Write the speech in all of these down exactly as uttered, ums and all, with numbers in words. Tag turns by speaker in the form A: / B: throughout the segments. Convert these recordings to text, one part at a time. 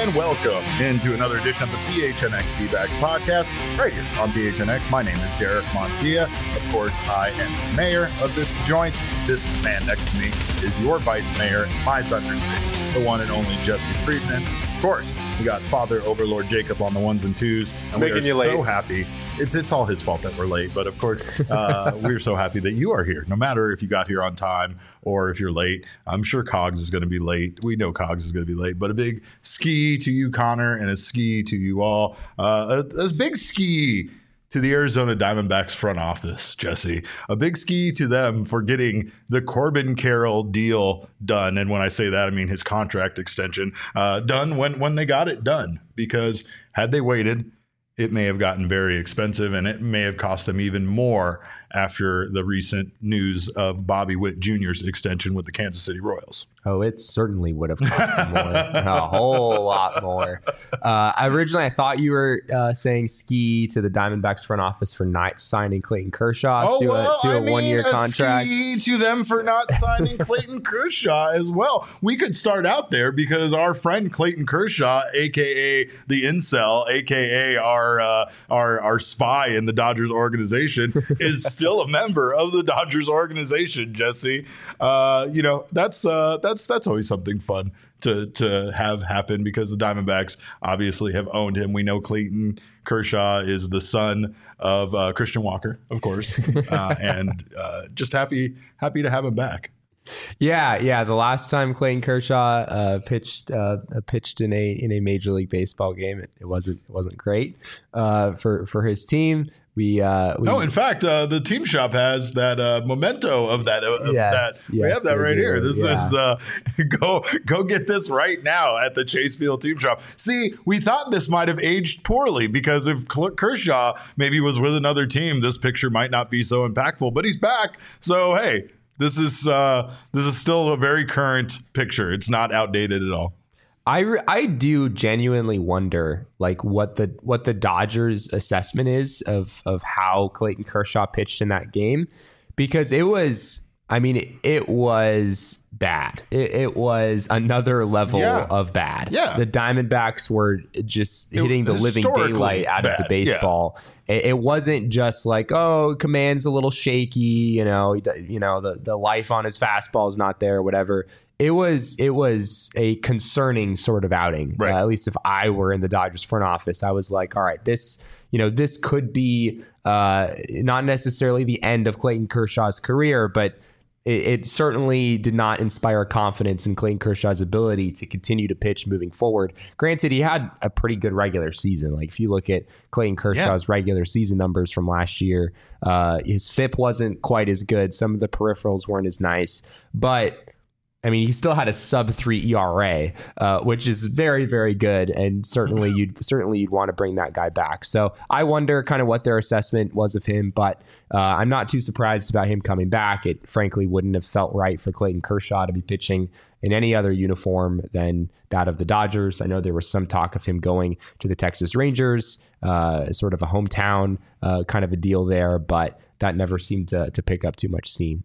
A: and welcome into another edition of the P H N X D-Backs podcast right here on P H N X. My name is Derek Montilla. Of course, I am the mayor of this joint. This man next to me is your vice mayor, my Thunder State, the one and only Jesse Friedman. Of course, we got Father Overlord Jacob on the ones and twos, and
B: Making
A: we are
B: you late.
A: so happy. It's it's all his fault that we're late, but of course, uh, we're so happy that you are here. No matter if you got here on time or if you're late, I'm sure Cogs is going to be late. We know Cogs is going to be late, but a big ski to you, Connor, and a ski to you all. Uh, a, a big ski to the Arizona Diamondbacks front office, Jesse. A big ski to them for getting the Corbin Carroll deal done. And when I say that, I mean his contract extension uh, done when, when they got it done. Because had they waited, it may have gotten very expensive, and it may have cost them even more after the recent news of Bobby Witt Junior's extension with the Kansas City Royals.
C: Oh, it certainly would have cost them more, a whole lot more. Uh, originally, I thought you were uh, saying ski to the Diamondbacks front office for not signing Clayton Kershaw
A: oh,
C: to
A: well,
C: a, to
A: I
C: a
A: mean,
C: one-year
A: a
C: contract.
A: Ski to them for not signing Clayton Kershaw as well. We could start out there because our friend Clayton Kershaw, aka the incel, aka our uh, our our spy in the Dodgers organization, is still a member of the Dodgers organization. Jesse, uh, you know that's uh, that's that's always something fun to to have happen because the Diamondbacks obviously have owned him. We know Clayton Kershaw is the son of uh, Christian Walker, of course, uh, and uh, just happy happy to have him back.
C: Yeah, yeah. The last time Clayton Kershaw uh, pitched uh, pitched in a in a Major League Baseball game, it, it wasn't it wasn't great uh, for for his team. We, uh, we
A: no, in fact, uh, the team shop has that uh, memento of that. Of
C: yes,
A: that.
C: Yes,
A: we have that right
C: do.
A: here. This
C: yeah.
A: is uh, go go get this right now at the Chase Field team shop. See, we thought this might have aged poorly because if Kershaw maybe was with another team, this picture might not be so impactful. But he's back, so hey, this is uh, this is still a very current picture. It's not outdated at all.
C: I, re- I do genuinely wonder like what the what the Dodgers assessment is of of how Clayton Kershaw pitched in that game, because it was I mean it, it was bad. It, it was another level
A: yeah.
C: of bad.
A: Yeah.
C: The Diamondbacks were just
A: it,
C: hitting the living daylight out
A: bad.
C: of the baseball. Yeah. It, it wasn't just like, oh, command's a little shaky, you know, you know the the life on his fastball is not there, or whatever. It was it was a concerning sort of outing.
A: Right.
C: Uh, at least if I were in the Dodgers front office, I was like, all right, this you know this could be uh, not necessarily the end of Clayton Kershaw's career, but it, it certainly did not inspire confidence in Clayton Kershaw's ability to continue to pitch moving forward. Granted, he had a pretty good regular season. Like if you look at Clayton Kershaw's yeah. regular season numbers from last year, uh, his F I P wasn't quite as good. Some of the peripherals weren't as nice, but I mean, he still had a sub three E R A, uh, which is very, very good, and certainly you'd certainly you'd want to bring that guy back. So I wonder kind of what their assessment was of him, but uh, I'm not too surprised about him coming back. It frankly wouldn't have felt right for Clayton Kershaw to be pitching in any other uniform than that of the Dodgers. I know there was some talk of him going to the Texas Rangers, uh, sort of a hometown uh, kind of a deal there, but that never seemed to, to pick up too much steam.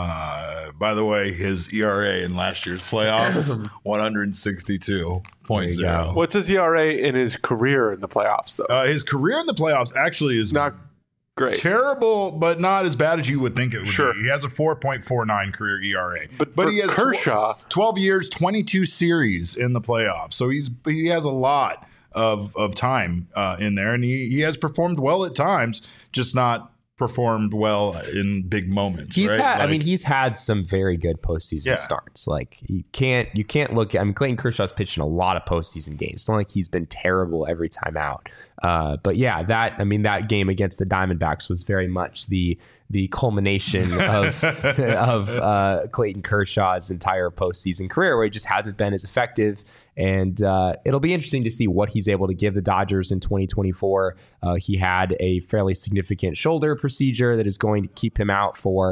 A: Uh, by the way, his E R A in last year's playoffs, one sixty-two point oh.
B: What's his E R A in his career in the playoffs, though?
A: Uh, his career in the playoffs actually is
B: it's not great.
A: Terrible, but not as bad as you would think it would
B: sure.
A: be. He has a four point four nine career E R A.
B: But,
A: but
B: for
A: he has
B: Kershaw,
A: twelve years, twenty-two series in the playoffs. So he's he has a lot of, of time uh, in there, and he, he has performed well at times, just not performed well in big moments.
C: He's
A: right?
C: had,
A: like,
C: I mean, he's had some very good postseason
A: yeah.
C: starts. Like you can't, you can't look at, I mean, Clayton Kershaw's pitched in a lot of postseason games. It's not like he's been terrible every time out. Uh, but yeah, that, I mean, that game against the Diamondbacks was very much the, the culmination of, of uh, Clayton Kershaw's entire postseason career, where he just hasn't been as effective. And uh, it'll be interesting to see what he's able to give the Dodgers in twenty twenty-four. Uh, he had a fairly significant shoulder procedure that is going to keep him out for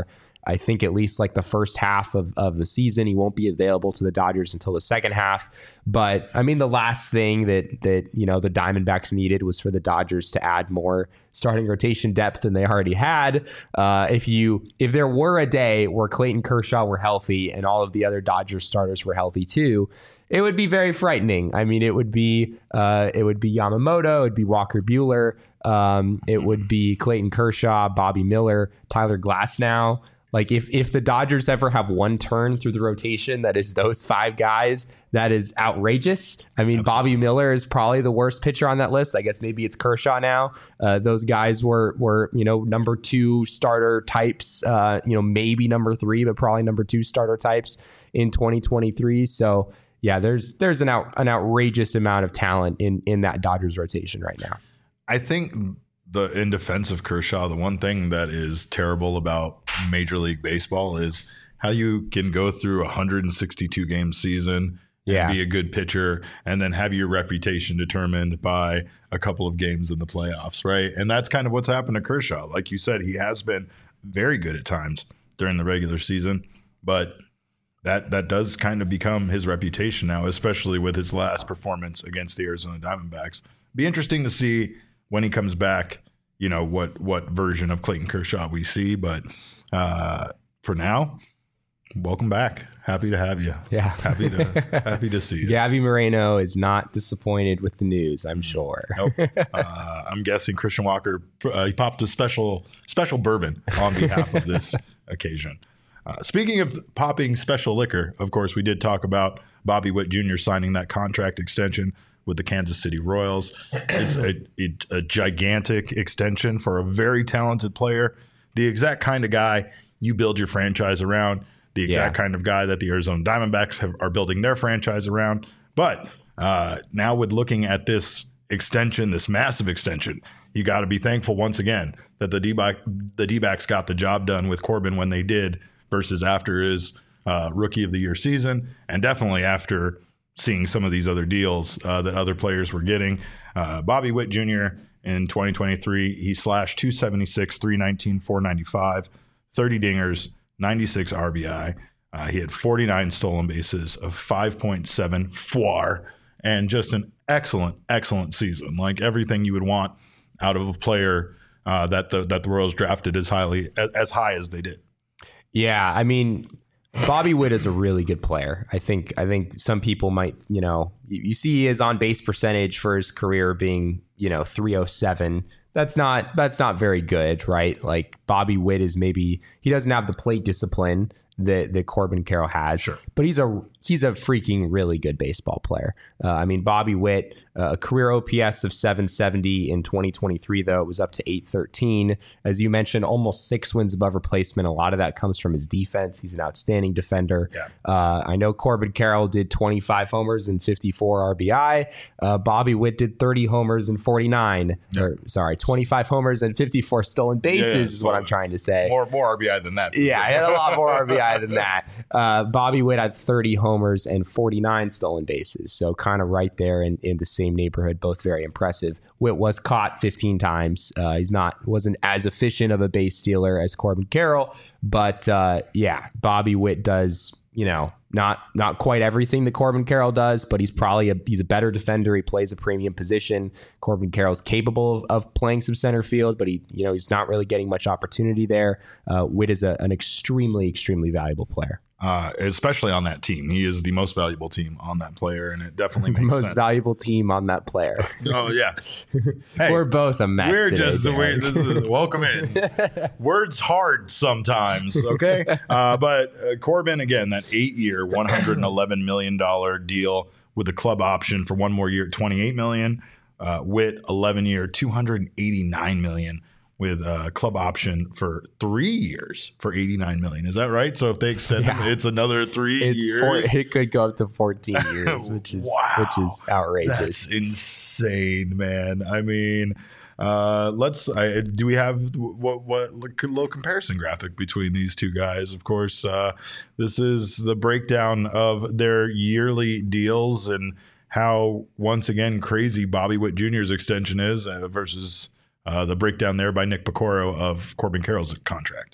C: I think at least like the first half of, of the season. He won't be available to the Dodgers until the second half. But I mean, the last thing that that you know the Diamondbacks needed was for the Dodgers to add more starting rotation depth than they already had. Uh, if you if there were a day where Clayton Kershaw were healthy and all of the other Dodgers starters were healthy too, it would be very frightening. I mean, it would be uh, it would be Yamamoto, it would be Walker Buehler, um, it would be Clayton Kershaw, Bobby Miller, Tyler Glasnow. Like if if the Dodgers ever have one turn through the rotation that is those five guys, that is outrageous. I mean, Absolutely. Bobby Miller is probably the worst pitcher on that list. I guess maybe it's Kershaw now. Uh, those guys were were you know number two starter types. Uh, you know maybe number three, but probably number two starter types in twenty twenty-three. So yeah, there's there's an out an outrageous amount of talent in in that Dodgers rotation right now.
A: I think the in defense of Kershaw, the one thing that is terrible about Major League Baseball is how you can go through a one hundred sixty-two game season
C: yeah.
A: and be a good pitcher and then have your reputation determined by a couple of games in the playoffs, right? And that's kind of what's happened to Kershaw. Like you said, he has been very good at times during the regular season, but that that does kind of become his reputation now, especially with his last performance against the Arizona Diamondbacks. Be interesting to see when he comes back, you know, what what version of Clayton Kershaw we see. But uh, for now, welcome back. Happy to have you.
C: Yeah.
A: Happy to happy to see you.
C: Gabby Moreno is not disappointed with the news, I'm sure.
A: Nope. Uh, I'm guessing Christian Walker, uh, he popped a special special bourbon on behalf of this occasion. Uh, speaking of popping special liquor, of course, we did talk about Bobby Witt Junior signing that contract extension with the Kansas City Royals. It's a, a, a gigantic extension for a very talented player, the exact kind of guy you build your franchise around, the exact
C: Yeah.
A: kind of guy that the Arizona Diamondbacks have, are building their franchise around. But uh, now with looking at this extension, this massive extension, you got to be thankful once again that the D-back, the D-backs got the job done with Corbin when they did versus after his uh, Rookie of the Year season, and definitely after seeing some of these other deals uh, that other players were getting. Uh, Bobby Witt Junior in twenty twenty-three, he slashed two seventy-six, three nineteen, four ninety-five, thirty dingers, ninety-six R B I. Uh, he had forty-nine stolen bases of five point seven F W A R, and just an excellent, excellent season. Like everything you would want out of a player uh, that the that the Royals drafted as highly as, as high as they did.
C: Yeah, I mean, Bobby Witt is a really good player. I think I think some people might, you know, you, you see his on base percentage for his career being, you know, three oh seven. That's not that's not very good, right? Like Bobby Witt is maybe he doesn't have the plate discipline that that Corbin Carroll has,
A: Sure.
C: but he's a he's a freaking really good baseball player. Uh, I mean, Bobby Witt, uh, a career O P S of seven seventy in twenty twenty-three, though it was up to eight thirteen. As you mentioned, almost six wins above replacement. A lot of that comes from his defense. He's an outstanding defender.
A: Yeah.
C: Uh, I know Corbin Carroll did twenty-five homers and fifty-four R B I. Uh, Bobby Witt did thirty homers and forty-nine.
A: Yeah.
C: Or sorry, twenty-five homers and fifty-four stolen bases
A: Yeah, yeah,
C: is what I'm trying to say.
A: More more R B I than that.
C: Yeah, I had a lot more R B I than that. Uh, Bobby Witt had thirty homers and forty-nine stolen bases. So kind of right there in, in the same neighborhood, both very impressive. Witt was caught fifteen times. Uh, he's not, wasn't as efficient of a base stealer as Corbin Carroll, but uh, yeah, Bobby Witt does, you know, not not quite everything that Corbin Carroll does, but he's probably a he's a better defender. He plays a premium position. Corbin Carroll's capable of, of playing some center field, but he you know he's not really getting much opportunity there. Uh, Witt is a, an extremely extremely valuable player.
A: Uh, especially on that team. He is the most valuable team on that player, and it definitely
C: The
A: makes
C: most
A: sense.
C: valuable team on that player.
A: Oh, yeah. Hey,
C: We're both a mess.
A: We're
C: today,
A: just,
C: Dan.
A: we, this is, welcome in. Words hard sometimes, okay? Uh, but uh, Corbin, again, that eight-year, one hundred eleven million dollars deal with the club option for one more year, twenty-eight million dollars. Uh, Witt, eleven-year, two hundred eighty-nine million dollars. With a club option for three years for eighty-nine million dollars. Is that right? So if they extend
C: Yeah.
A: it, it's another three
C: It's
A: years.
C: four, it could go up to fourteen years, which is
A: Wow.
C: which is outrageous.
A: That's insane, man. I mean, uh, let's. I, do we have what what little comparison graphic between these two guys? Of course, uh, this is the breakdown of their yearly deals and how once again crazy Bobby Witt Junior's extension is uh, versus uh, the breakdown there by Nick Pecoro of Corbin Carroll's contract.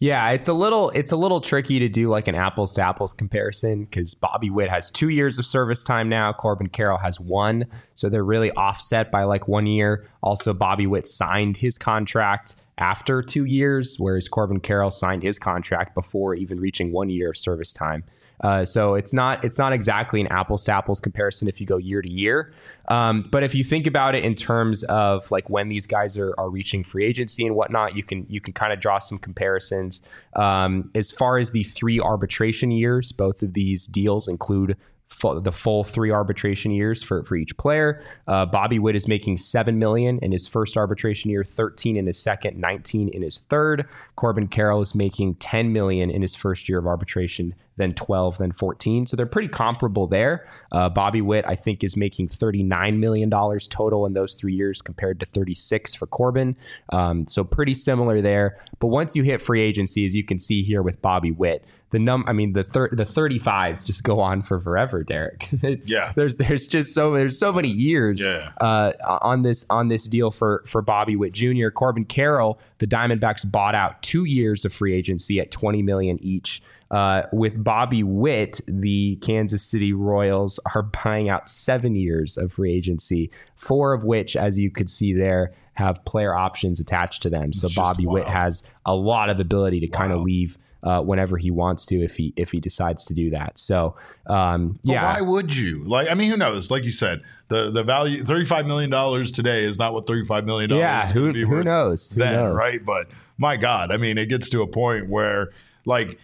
C: Yeah, it's a little it's a little tricky to do like an apples to apples comparison because Bobby Witt has two years of service time now. Corbin Carroll has one, so they're really offset by like one year. Also, Bobby Witt signed his contract after two years, whereas Corbin Carroll signed his contract before even reaching one year of service time. Uh, so it's not it's not exactly an apples to apples comparison if you go year to year. Um, but if you think about it in terms of like when these guys are, are reaching free agency and whatnot, you can you can kind of draw some comparisons. Um, as far as the three arbitration years, both of these deals include full, the full three arbitration years for, for each player. Uh, Bobby Witt is making seven million dollars in his first arbitration year, thirteen in his second, nineteen in his third. Corbin Carroll is making ten million dollars in his first year of arbitration, then twelve, then fourteen. So they're pretty comparable there. Uh, Bobby Witt, I think, is making thirty-nine million dollars total in those three years compared to thirty-six for Corbin. Um, so pretty similar there. But once you hit free agency, as you can see here with Bobby Witt, the num I mean the thir- the thirty-fives just go on for forever, Derek. It's,
A: yeah.
C: There's there's just so there's so many years
A: yeah.
C: uh, on this on this deal for for Bobby Witt Junior Corbin Carroll, the Diamondbacks bought out two years of free agency at twenty million dollars each. Uh, with Bobby Witt, the Kansas City Royals are buying out seven years of free agency, four of which, as you could see there, have player options attached to them. So
A: It's
C: Bobby
A: just,
C: Witt
A: wow.
C: has a lot of ability to
A: Wow.
C: kind of leave uh, whenever he wants to, if he if he decides to do that. So um,
A: But
C: yeah,
A: why would you? Like, I mean, who knows? Like you said, the the value thirty-five million dollars today is not what thirty-five million dollars
C: yeah,
A: is
C: who
A: gonna be
C: who
A: worth
C: knows? Who
A: then,
C: knows?
A: right? But my God, I mean, it gets to a point where like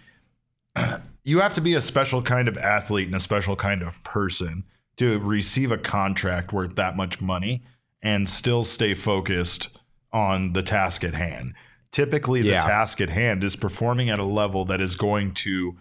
A: you have to be a special kind of athlete and a special kind of person to receive a contract worth that much money and still stay focused on the task at hand. Typically, the
C: Yeah.
A: task at hand is performing at a level that is going to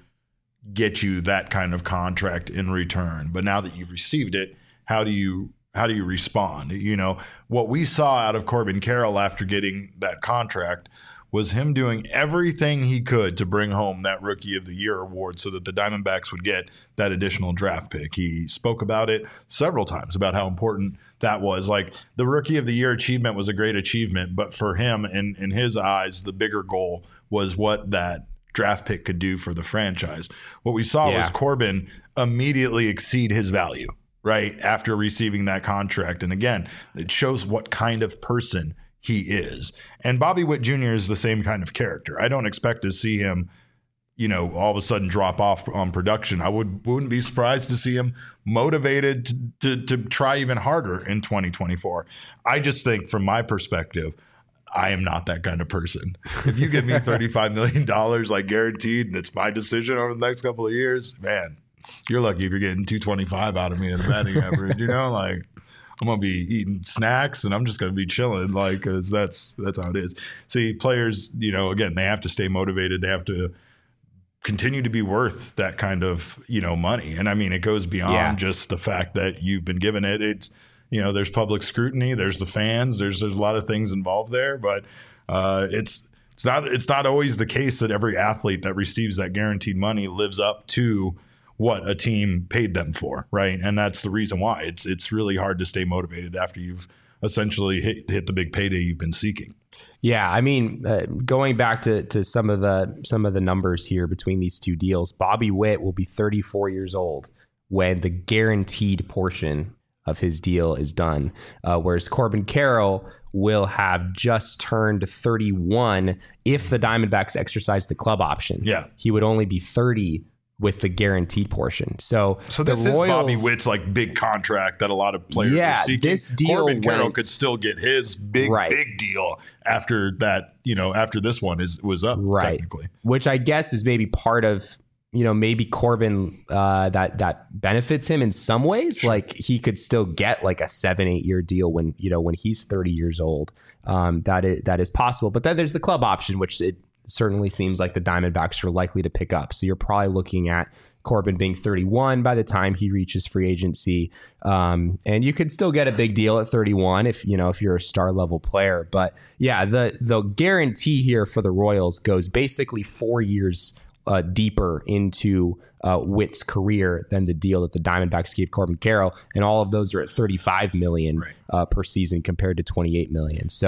A: get you that kind of contract in return. But now that you've received it, how do you how do you respond? You know, what we saw out of Corbin Carroll after getting that contract was him doing everything he could to bring home that Rookie of the Year award so that the Diamondbacks would get that additional draft pick. He spoke about it several times about how important that was. Like, the Rookie of the Year achievement was a great achievement, but for him, in, in his eyes, the bigger goal was what that draft pick could do for the franchise. What we saw
C: Yeah.
A: was Corbin immediately exceed his value, right, after receiving that contract. And again, it shows what kind of person he is. And Bobby Witt Junior is the same kind of character. I don't expect to see him, you know, all of a sudden drop off on production. I would, wouldn't be surprised to see him motivated to, to, to try even harder in twenty twenty-four. I just think from my perspective, I am not that kind of person. If you give me thirty-five million dollars like guaranteed and it's my decision over the next couple of years, man, you're lucky if you're getting two twenty-five out of me in the batting average, you know, like I'm going to be eating snacks and I'm just going to be chilling, like, because that's, that's how it is. See, players, you know, again, they have to stay motivated. They have to continue to be worth that kind of, you know, money. And I mean, it goes beyond
C: Yeah.
A: just the fact that you've been given it. It's, you know, there's public scrutiny, there's the fans, there's, there's a lot of things involved there, but uh, it's, it's not, it's not always the case that every athlete that receives that guaranteed money lives up to what a team paid them for, right? And that's the reason why it's it's really hard to stay motivated after you've essentially hit hit the big payday you've been seeking.
C: Yeah, I mean, uh, going back to to some of the some of the numbers here between these two deals, Bobby Witt will be thirty-four years old when the guaranteed portion of his deal is done, uh, whereas Corbin Carroll will have just turned thirty-one if the Diamondbacks exercise the club option.
A: Yeah.
C: He would only be thirty with the guaranteed portion. So,
A: So
C: the
A: this is
C: Royals,
A: Bobby Witt's like big contract that a lot of players
C: Yeah,
A: are seeking.
C: this deal
A: Corbin Carroll
C: went-
A: could still get his big
C: Right.
A: big deal after that, you know, after this one is was up
C: Right.
A: technically.
C: which I guess is maybe part of, you know, maybe Corbin uh, that that benefits him in some ways. Like he could still get like a seven, eight year deal when, you know, when he's thirty years old. Um, that is that is possible. But then there's the club option, which it certainly seems like the Diamondbacks are likely to pick up. So you're probably looking at Corbin being thirty-one by the time he reaches free agency. Um, and you could still get a big deal at thirty-one if, you know, if you're a star level player. But yeah, the, the guarantee here for the Royals goes basically four years uh, deeper into uh, Witt's career than the deal that the Diamondbacks gave Corbin Carroll. And all of those are at thirty-five million
A: Right.
C: uh, per season compared to twenty-eight million. So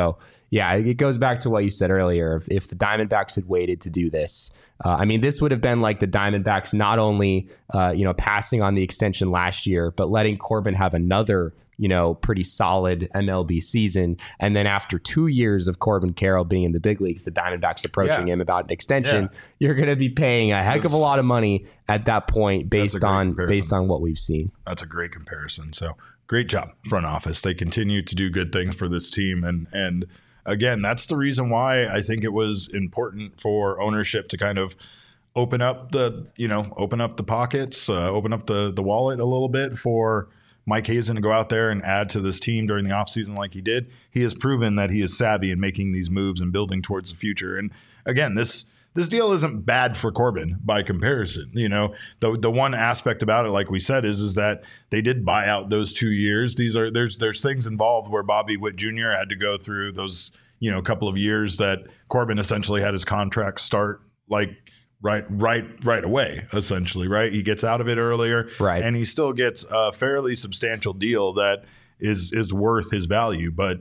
C: yeah, it goes back to what you said earlier. If, if the Diamondbacks had waited to do this, uh, I mean, this would have been like the Diamondbacks not only, uh, you know, passing on the extension last year, but letting Corbin have another, you know, pretty solid M L B season. And then after two years of Corbin Carroll being in the big leagues, the Diamondbacks approaching yeah. him about an extension, yeah. you're going to be paying a heck of a lot of money at that point based on comparison. based on what we've seen.
A: That's a great comparison. So great job, front office. They continue to do good things for this team. And, and again, that's the reason why I think it was important for ownership to kind of open up the, you know, open up the pockets, uh, open up the, the wallet a little bit for Mike Hazen to go out there and add to this team during the offseason like he did. He has proven that he is savvy in making these moves and building towards the future. And again, this this deal isn't bad for Corbin by comparison. You know, the the one aspect about it, like we said, is is that they did buy out those two years. These are there's there's things involved where Bobby Witt Junior had to go through those, you know, couple of years that Corbin essentially had his contract start like Right, right, right away, essentially, right? He gets out of it earlier,
C: right,
A: and he still gets a fairly substantial deal that is is worth his value, but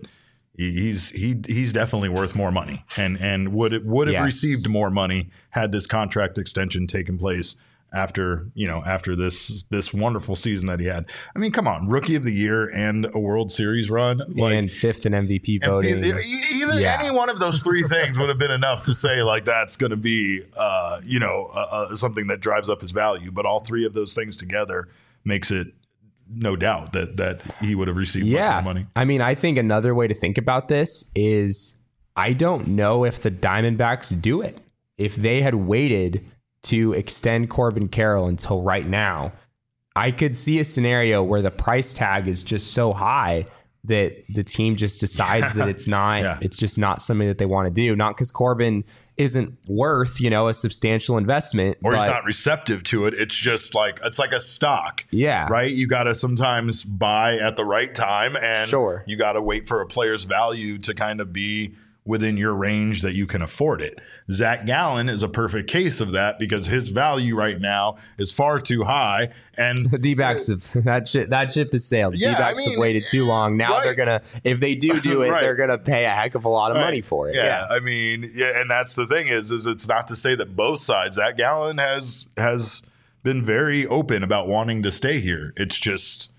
A: he's he he's definitely worth more money, and and would would have
C: yes.
A: received more money had this contract extension taken place after you know after this this wonderful season that he had. I mean, come on, Rookie of the Year and a World Series run, like,
C: and fifth in M V P voting.
A: And either
C: yeah.
A: any one of those three things would have been enough to say like that's going to be uh, you know uh, uh, something that drives up his value. But all three of those things together makes it no doubt that that he would have received
C: yeah.
A: much more money.
C: I mean, I think another way to think about this is I don't know if the Diamondbacks do it. If they had waited to extend Corbin Carroll until right now, I could see a scenario where the price tag is just so high that the team just decides that it's not, yeah. it's just not something that they want to do. Not because Corbin isn't worth, you know, a substantial investment,
A: or
C: but
A: he's not receptive to it. It's just like, it's like a stock.
C: Yeah.
A: Right. You got to sometimes buy at the right time, and
C: sure.
A: you got to wait for a player's value to kind of be within your range that you can afford it. Zach Gallen is a perfect case of that because his value right now is far too high. And
C: the D-backs have that ship, that ship has sailed. The
A: yeah,
C: D-backs
A: I mean,
C: have waited too long. Now
A: right.
C: they're gonna, if they do do it,
A: right.
C: they're gonna pay a heck of a lot of
A: right.
C: money for it.
A: Yeah,
C: yeah,
A: I mean, yeah, and that's the thing is, is it's not to say that both sides. Zach Gallen has has been very open about wanting to stay here. It's just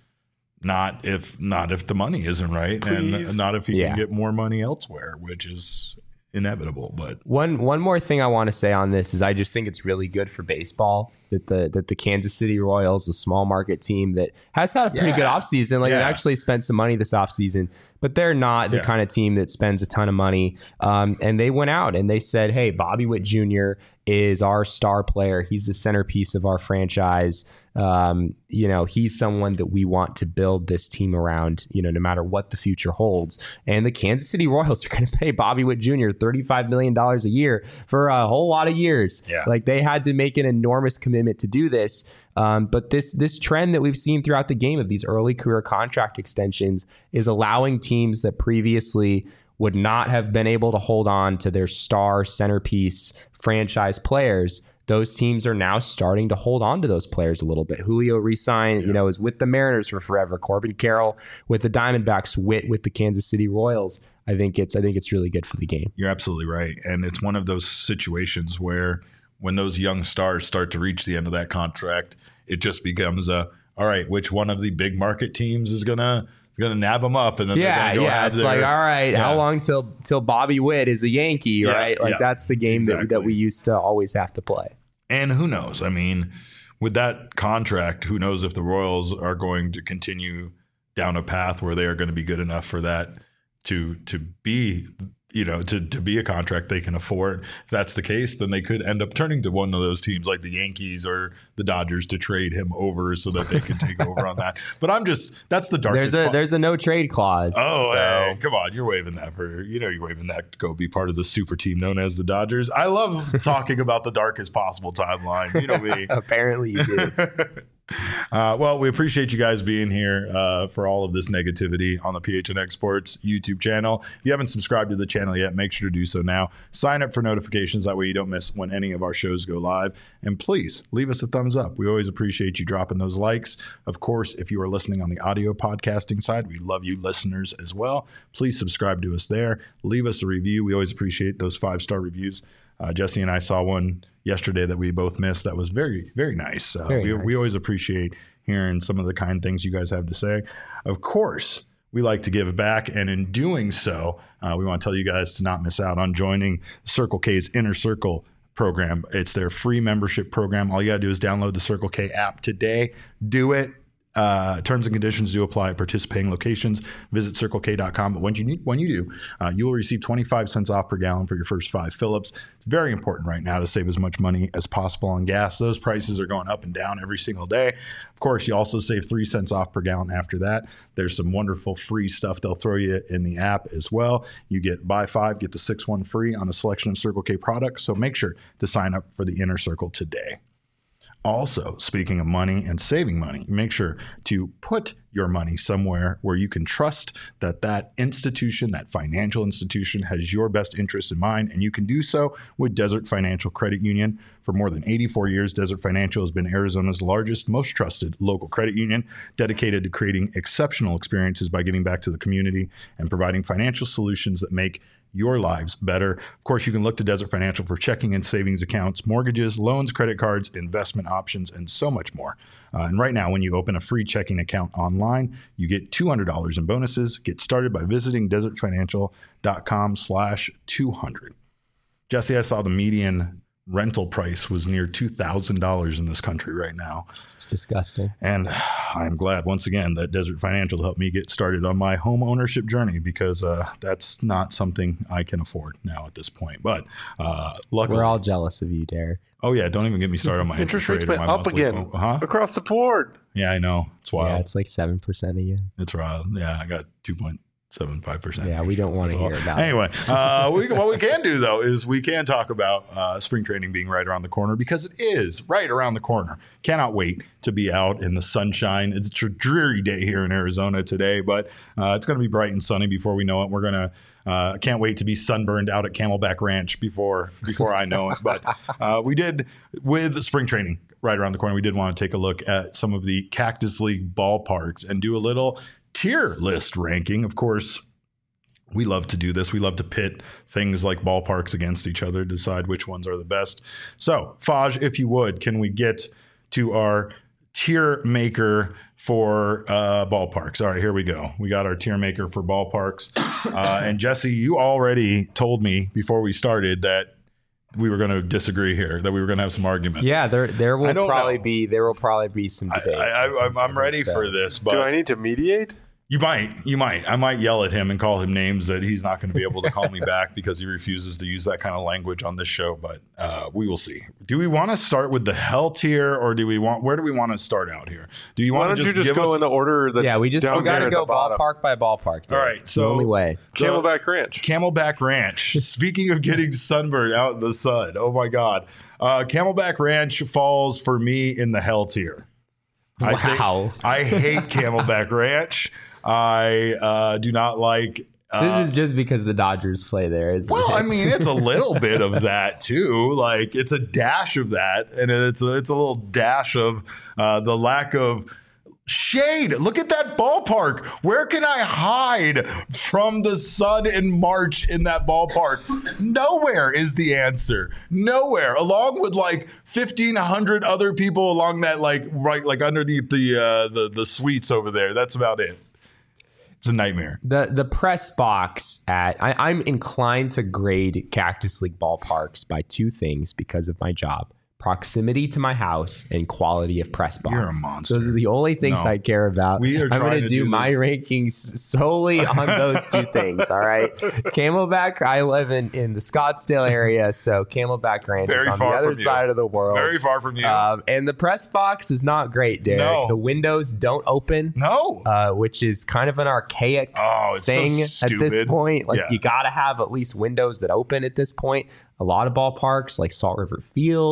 A: not if not if the money isn't right,
B: Please.
A: and not if he
C: yeah.
A: can get more money elsewhere, which is inevitable. But
C: one one more thing I want to say on this is I just think it's really good for baseball that the that the Kansas City Royals, a small market team that has had a pretty
A: yeah.
C: good offseason, like
A: yeah.
C: they actually spent some money this offseason, but they're not the
A: yeah.
C: kind of team that spends a ton of money. Um, and they went out and they said, hey, Bobby Witt Junior is our star player. He's the centerpiece of our franchise. Um, you know, he's someone that we want to build this team around, you know, no matter what the future holds. And the Kansas City Royals are going to pay Bobby Witt Junior thirty-five million dollars a year for a whole lot of years.
A: Yeah.
C: Like they had to make an enormous commitment to do this. Um, but this this trend that we've seen throughout the game of these early career contract extensions is allowing teams that previously would not have been able to hold on to their star centerpiece franchise players. Those teams are now starting to hold on to those players a little bit. Julio re-signed, yeah. you know, is with the Mariners for forever. Corbin Carroll with the Diamondbacks, Witt with the Kansas City Royals. I think it's I think it's really good for the game.
A: You're absolutely right. And it's one of those situations where when those young stars start to reach the end of that contract, it just becomes a, all right, which one of the big market teams is gonna gonna nab them up, and then
C: yeah,
A: they're gonna go
C: yeah.
A: have
C: It's
A: their,
C: like, all right,
A: yeah.
C: how long till till Bobby Witt is a Yankee,
A: Yeah,
C: right? Like
A: yeah,
C: that's the game
A: exactly.
C: that that we used to always have to play.
A: And who knows? I mean, with that contract, who knows if the Royals are going to continue down a path where they are going to be good enough for that to to be, you know, to, to be a contract they can afford. If that's the case, then they could end up turning to one of those teams like the Yankees or the Dodgers to trade him over so that they can take over on that. But I'm just, that's the darkest
C: There's a
A: part.
C: there's a no trade clause.
A: Oh,
C: so.
A: hey, come on. You're waving that for, you know, you're waving that to go be part of the super team known as the Dodgers. I love talking about the darkest possible timeline. You know me.
C: Apparently you do.
A: Uh, well, we appreciate you guys being here uh, for all of this negativity on the P H N X Sports YouTube channel. If you haven't subscribed to the channel yet, make sure to do so now. Sign up for notifications. That way you don't miss when any of our shows go live. And please leave us a thumbs up. We always appreciate you dropping those likes. Of course, if you are listening on the audio podcasting side, we love you listeners as well. Please subscribe to us there. Leave us a review. We always appreciate those five-star reviews. Uh, Jesse and I saw one yesterday that we both missed. That was very, very nice. Uh,
C: very
A: we,
C: nice.
A: we always appreciate hearing some of the kind things you guys have to say. Of course, we like to give back. And in doing so, uh, we want to tell you guys to not miss out on joining Circle K's Inner Circle program. It's their free membership program. All you got to do is download the Circle K app today. Do it. Uh, terms and conditions do apply at participating locations. Visit circle k dot com. But when you need, when you do, uh, you will receive twenty-five cents off per gallon for your first five fill-ups. It's very important right now to save as much money as possible on gas. Those prices are going up and down every single day. Of course, you also save three cents off per gallon after that. There's some wonderful free stuff they'll throw you in the app as well. You get buy five, get the six one free on a selection of Circle K products. So make sure to sign up for the Inner Circle today. Also, speaking of money and saving money, make sure to put your money somewhere where you can trust that that institution, that financial institution, has your best interests in mind, and you can do so with Desert Financial Credit Union. For more than eighty-four years, Desert Financial has been Arizona's largest, most trusted local credit union, dedicated to creating exceptional experiences by giving back to the community and providing financial solutions that make your lives better. Of course, you can look to Desert Financial for checking and savings accounts, mortgages, loans, credit cards, investment options, and so much more. Uh, and right now, when you open a free checking account online, you get two hundred dollars in bonuses. Get started by visiting desert financial dot com slash two hundred. Jesse, I saw the median rental price was near two thousand dollars in this country right now.
C: It's disgusting.
A: And I'm glad, once again, that Desert Financial helped me get started on my home ownership journey, because uh, that's not something I can afford now at this point. But uh, luckily,
C: We're all jealous of you, Derek.
A: Oh, yeah. Don't even get me started on my
B: Interest
A: interest
B: rates
A: rate.
B: went
A: or my
B: up
A: monthly
B: again
A: phone. Huh?
B: across the board.
A: Yeah, I know. It's wild.
C: Yeah, it's like seven percent again.
A: It's wild. Yeah, I got two point seven five percent.
C: Yeah, we don't want to hear about it.
A: Anyway, uh, we, what we can do, though, is we can talk about uh, spring training being right around the corner, because it is right around the corner. Cannot wait to be out in the sunshine. It's a dreary day here in Arizona today, but uh, it's going to be bright and sunny before we know it. We're going to Uh, can't wait to be sunburned out at Camelback Ranch before before I know it. But uh, we did, with spring training right around the corner, we did want to take a look at some of the Cactus League ballparks and do a little tier list ranking. Of course, we love to do this. We love to pit things like ballparks against each other, decide which ones are the best. So, Faj, if you would, can we get to our tier maker for uh, ballparks? All right, here we go. We got our tier maker for ballparks. Uh, and Jesse, you already told me before we started that we were going to disagree here, that we were going to have some arguments.
C: Yeah, there there will
A: don't
C: probably
A: know.
C: be there will probably be some debate.
A: I, I, I'm, I'm ready
C: So-
A: for this, but
B: Do I need to mediate?
A: You might, you might. I might yell at him and call him names that he's not going to be able to call me back, because he refuses to use that kind of language on this show. But uh, we will see. Do we want to start with the hell tier, or do we want? Where do we want to start out here? Do you
B: Why
A: want
B: don't
A: to
B: you
A: just
B: just
A: give
B: go
A: us?
B: in the order that's
C: yeah, we just
B: down
C: we got
B: there
C: to
B: at
C: go
B: the bottom?
C: ballpark by ballpark.
A: All right,
C: it's
A: so
C: the only way.
A: So-
B: Camelback Ranch.
A: Camelback Ranch. Speaking of getting sunburned out in the sun, oh my God, uh, Camelback Ranch falls for me in the hell tier. I think-
C: Wow.
A: I hate Camelback Ranch. I uh, do not like. Uh,
C: This is just because the Dodgers play there, isn't
A: well,
C: it?
A: I mean, it's a little bit of that too. Like, it's a dash of that, and it's a, it's a little dash of uh, the lack of shade. Look at that ballpark. Where can I hide from the sun in March in that ballpark? Nowhere is the answer. Nowhere. Along with like fifteen hundred other people along that, like right, like underneath the uh, the the suites over there. That's about it. It's a nightmare.
C: The the press box at I, I'm inclined to grade Cactus League ballparks by two things because of my job: proximity to my house and quality of press box.
A: You're a monster.
C: Those are the only things
A: No.
C: I care about.
A: We are
C: I'm
A: trying
C: going
A: to
C: do,
A: do
C: my
A: this.
C: rankings solely on those two things. All right, Camelback. I live in in the Scottsdale area, so Camelback Ranch
A: Very
C: is on
A: far
C: the other
A: from you.
C: side of the world.
A: Very far from you.
C: Um, and the press box is not great, Derek.
A: No.
C: The windows don't open.
A: no.
C: Uh, which is kind of an archaic
A: Oh, it's so
C: thing at this
A: stupid.
C: point. Like,
A: Yeah.
C: you got to have at least windows that open at this point. A lot of ballparks, like Salt River Fields,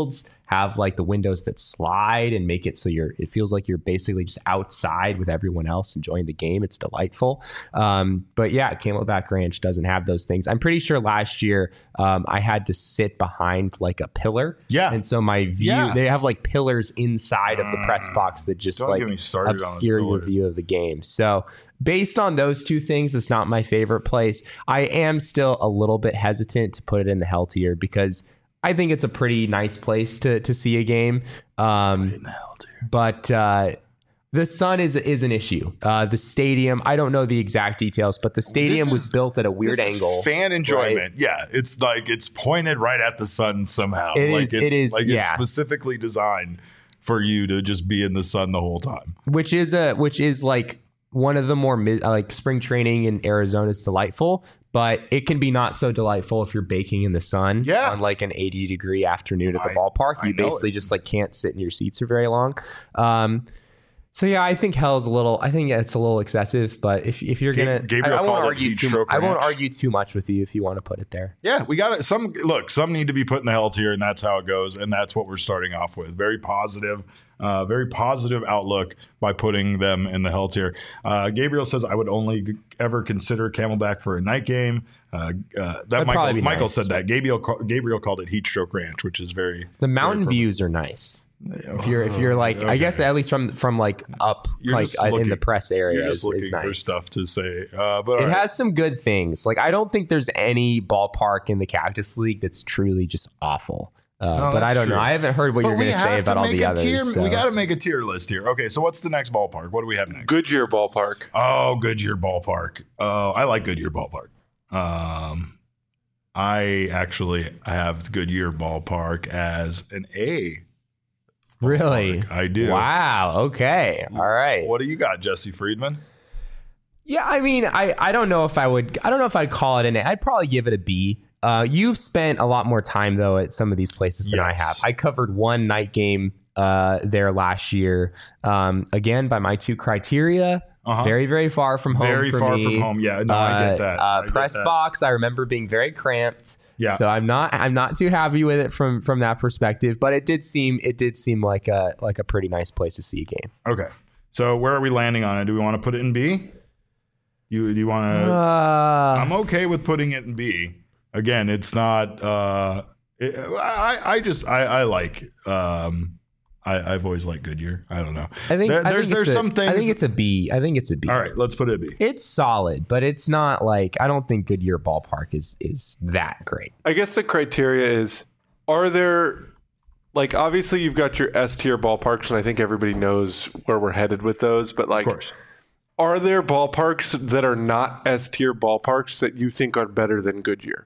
C: have like the windows that slide and make it so you're it feels like you're basically just outside with everyone else enjoying the game. It's delightful. Um, but yeah, Camelback Ranch doesn't have those things. I'm pretty sure last year um, I had to sit behind like a pillar.
A: Yeah.
C: And so my view,
A: Yeah.
C: they have like pillars inside of the press box that just
A: Don't
C: like
A: get me started on the
C: obscure your
A: pillars.
C: view of the game. So based on those two things, it's not my favorite place. I am still a little bit hesitant to put it in the hell tier because I think it's a pretty nice place to to see a game. Um,
A: In the hell, dude.
C: but uh, the sun is is an issue. Uh, the stadium, I don't know the exact details, but the stadium
A: This
C: was
A: is-
C: built at a weird
A: This is
C: angle.
A: fan enjoyment. Yeah, it's like it's pointed right at the sun somehow.
C: It
A: like
C: is-
A: It's,
C: it is,
A: like it's
C: yeah.
A: specifically designed for you to just be in the sun the whole time.
C: which is a which is like one of the more mi- like spring training in Arizona is delightful, but it can be not so delightful if you're baking in the sun
A: Yeah.
C: on like an eighty degree afternoon at the
A: I-
C: ballpark.
A: I
C: You
A: know
C: basically
A: it.
C: just like can't sit in your seats for very long. Um, so yeah, I think hell's a little. I think it's a little excessive, but if if you're
A: Ga-
C: gonna,
A: Gabriel
C: I, I won't
A: called it
C: argue
A: heat
C: too.
A: stroke
C: I won't
A: ranch.
C: argue too much with you if you want to put it there.
A: Yeah, we got it. Some look, some need to be put in the hell tier, and that's how it goes. And that's what we're starting off with. Very positive, uh, very positive outlook by putting them in the hell tier. Uh, Gabriel says, "I would only g- ever consider Camelback for a night game." Uh, uh, that
C: That'd
A: Michael
C: probably be
A: Michael
C: nice.
A: said that. Gabriel ca- Gabriel called it Heat Stroke Ranch, which is very
C: The mountain
A: very
C: views are nice. If you're if you're like, I guess at least from from like up
A: You're
C: like
A: just
C: uh, in
A: looking-
C: the press area
A: You're
C: is,
A: just looking
C: is
A: for
C: nice.
A: stuff to say, uh, but
C: It
A: all right.
C: has some good things. Like I don't think there's any ballpark in the Cactus League that's truly just awful. Uh,
A: No,
C: but I
A: that's
C: don't
A: true.
C: know. I haven't heard what
A: But
C: you're
A: we
C: going to
A: have
C: say about all
A: make
C: the
A: a
C: others.
A: tier-
C: so.
A: We got to make a tier list here. Okay, so what's the next ballpark? What do we have next?
B: Goodyear Ballpark.
A: Oh, Goodyear Ballpark. Oh, I like Goodyear Ballpark. Um, I actually have Goodyear Ballpark as an A.
C: Really?
A: ballpark. I do.
C: Wow. Okay. All right.
A: What do you got, Jesse Friedman?
C: Yeah. I mean, I, I don't know if I would. I don't know if I'd call it an A. I'd probably give it a B. Uh, you've spent a lot more time though at some of these places than I
A: Yes.
C: have. I covered one night game uh, there last year. Um, again, by my two criteria,
A: Uh-huh.
C: very very far from home.
A: Very
C: for
A: far
C: me.
A: from home. Yeah, no, I get that.
C: Uh,
A: I get
C: press
A: that.
C: box, I remember being very cramped.
A: Yeah.
C: So I'm not I'm not too happy with it from from that perspective. But it did seem it did seem like a like a pretty nice place to see a game.
A: Okay. So where are we landing on it? Do we want to put it in B? You do you want to?
C: Uh,
A: I'm okay with putting it in B. Again, it's not. Uh, it, I I just I I like. Um, I I've always liked Goodyear. I don't know.
C: I think
A: There-
C: I
A: there's
C: think
A: there's
C: it's a-
A: some things.
C: I think it's a B. I think it's a B.
A: all right. Let's put it a B.
C: It's solid, but it's not like I don't think Goodyear Ballpark is is that great.
B: I guess the criteria is, are there, like, obviously you've got your S tier ballparks, and I think everybody knows where we're headed with those, but like,
A: Of course.
B: are there ballparks that are not S tier ballparks that you think are better than Goodyear?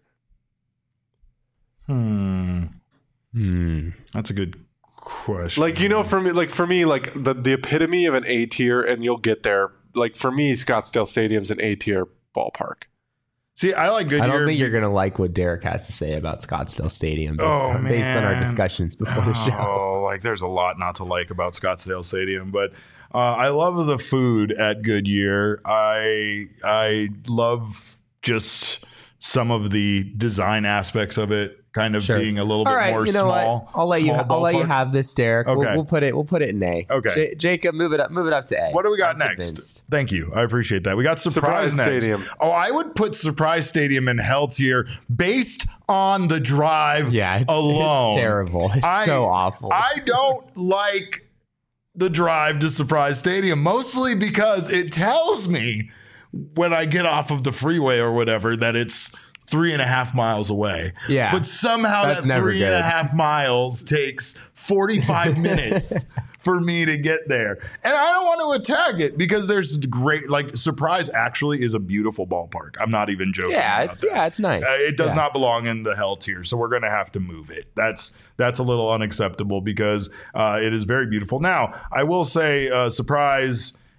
A: Hmm.
C: Hmm.
A: That's a good question.
B: Like, you know, for me, like for me, like the, the epitome of an A tier, and you'll get there. Like for me, Scottsdale Stadium's an A tier ballpark.
A: See, I like Goodyear.
C: I don't think you're gonna like what Derek has to say about Scottsdale Stadium based,
A: Oh,
C: on, based on our
A: man.
C: discussions before the show.
A: Oh, like there's a lot not to like about Scottsdale Stadium, but uh, I love the food at Goodyear. I I love just some of the design aspects of it, kind of
C: Sure.
A: being a little
C: All
A: bit
C: right,
A: more
C: you know
A: small.
C: what? I'll let you.
A: small
C: I'll let you
A: ballpark.
C: have this, Derek. We'll,
A: Okay.
C: we'll put it. We'll put it in A.
A: Okay.
C: J- Jacob, move it up. Move it up to A.
A: What do we got
C: I'm
A: next?
C: convinced.
A: Thank you. I appreciate that. We got Surprise,
B: Surprise
A: next.
B: Stadium.
A: Oh, I would put Surprise Stadium in hell tier based on the drive
C: Yeah, it's,
A: alone.
C: it's terrible. It's
A: I-
C: so awful.
A: I don't like the drive to Surprise Stadium, mostly because it tells me when I get off of the freeway or whatever that it's three and a half miles away.
C: Yeah.
A: But somehow
C: That's
A: that
C: never
A: three and a
C: good.
A: half miles takes forty-five minutes for me to get there. And I don't want to attack it because there's great, like, Surprise actually is a beautiful ballpark. I'm not even joking.
C: yeah,
A: about
C: it's
A: that.
C: yeah, it's nice.
A: Uh, it does
C: Yeah.
A: not belong in the hell tier, so we're going to have to move it. That's that's a little unacceptable because uh, it is very beautiful. Now, I will say, uh, Surprise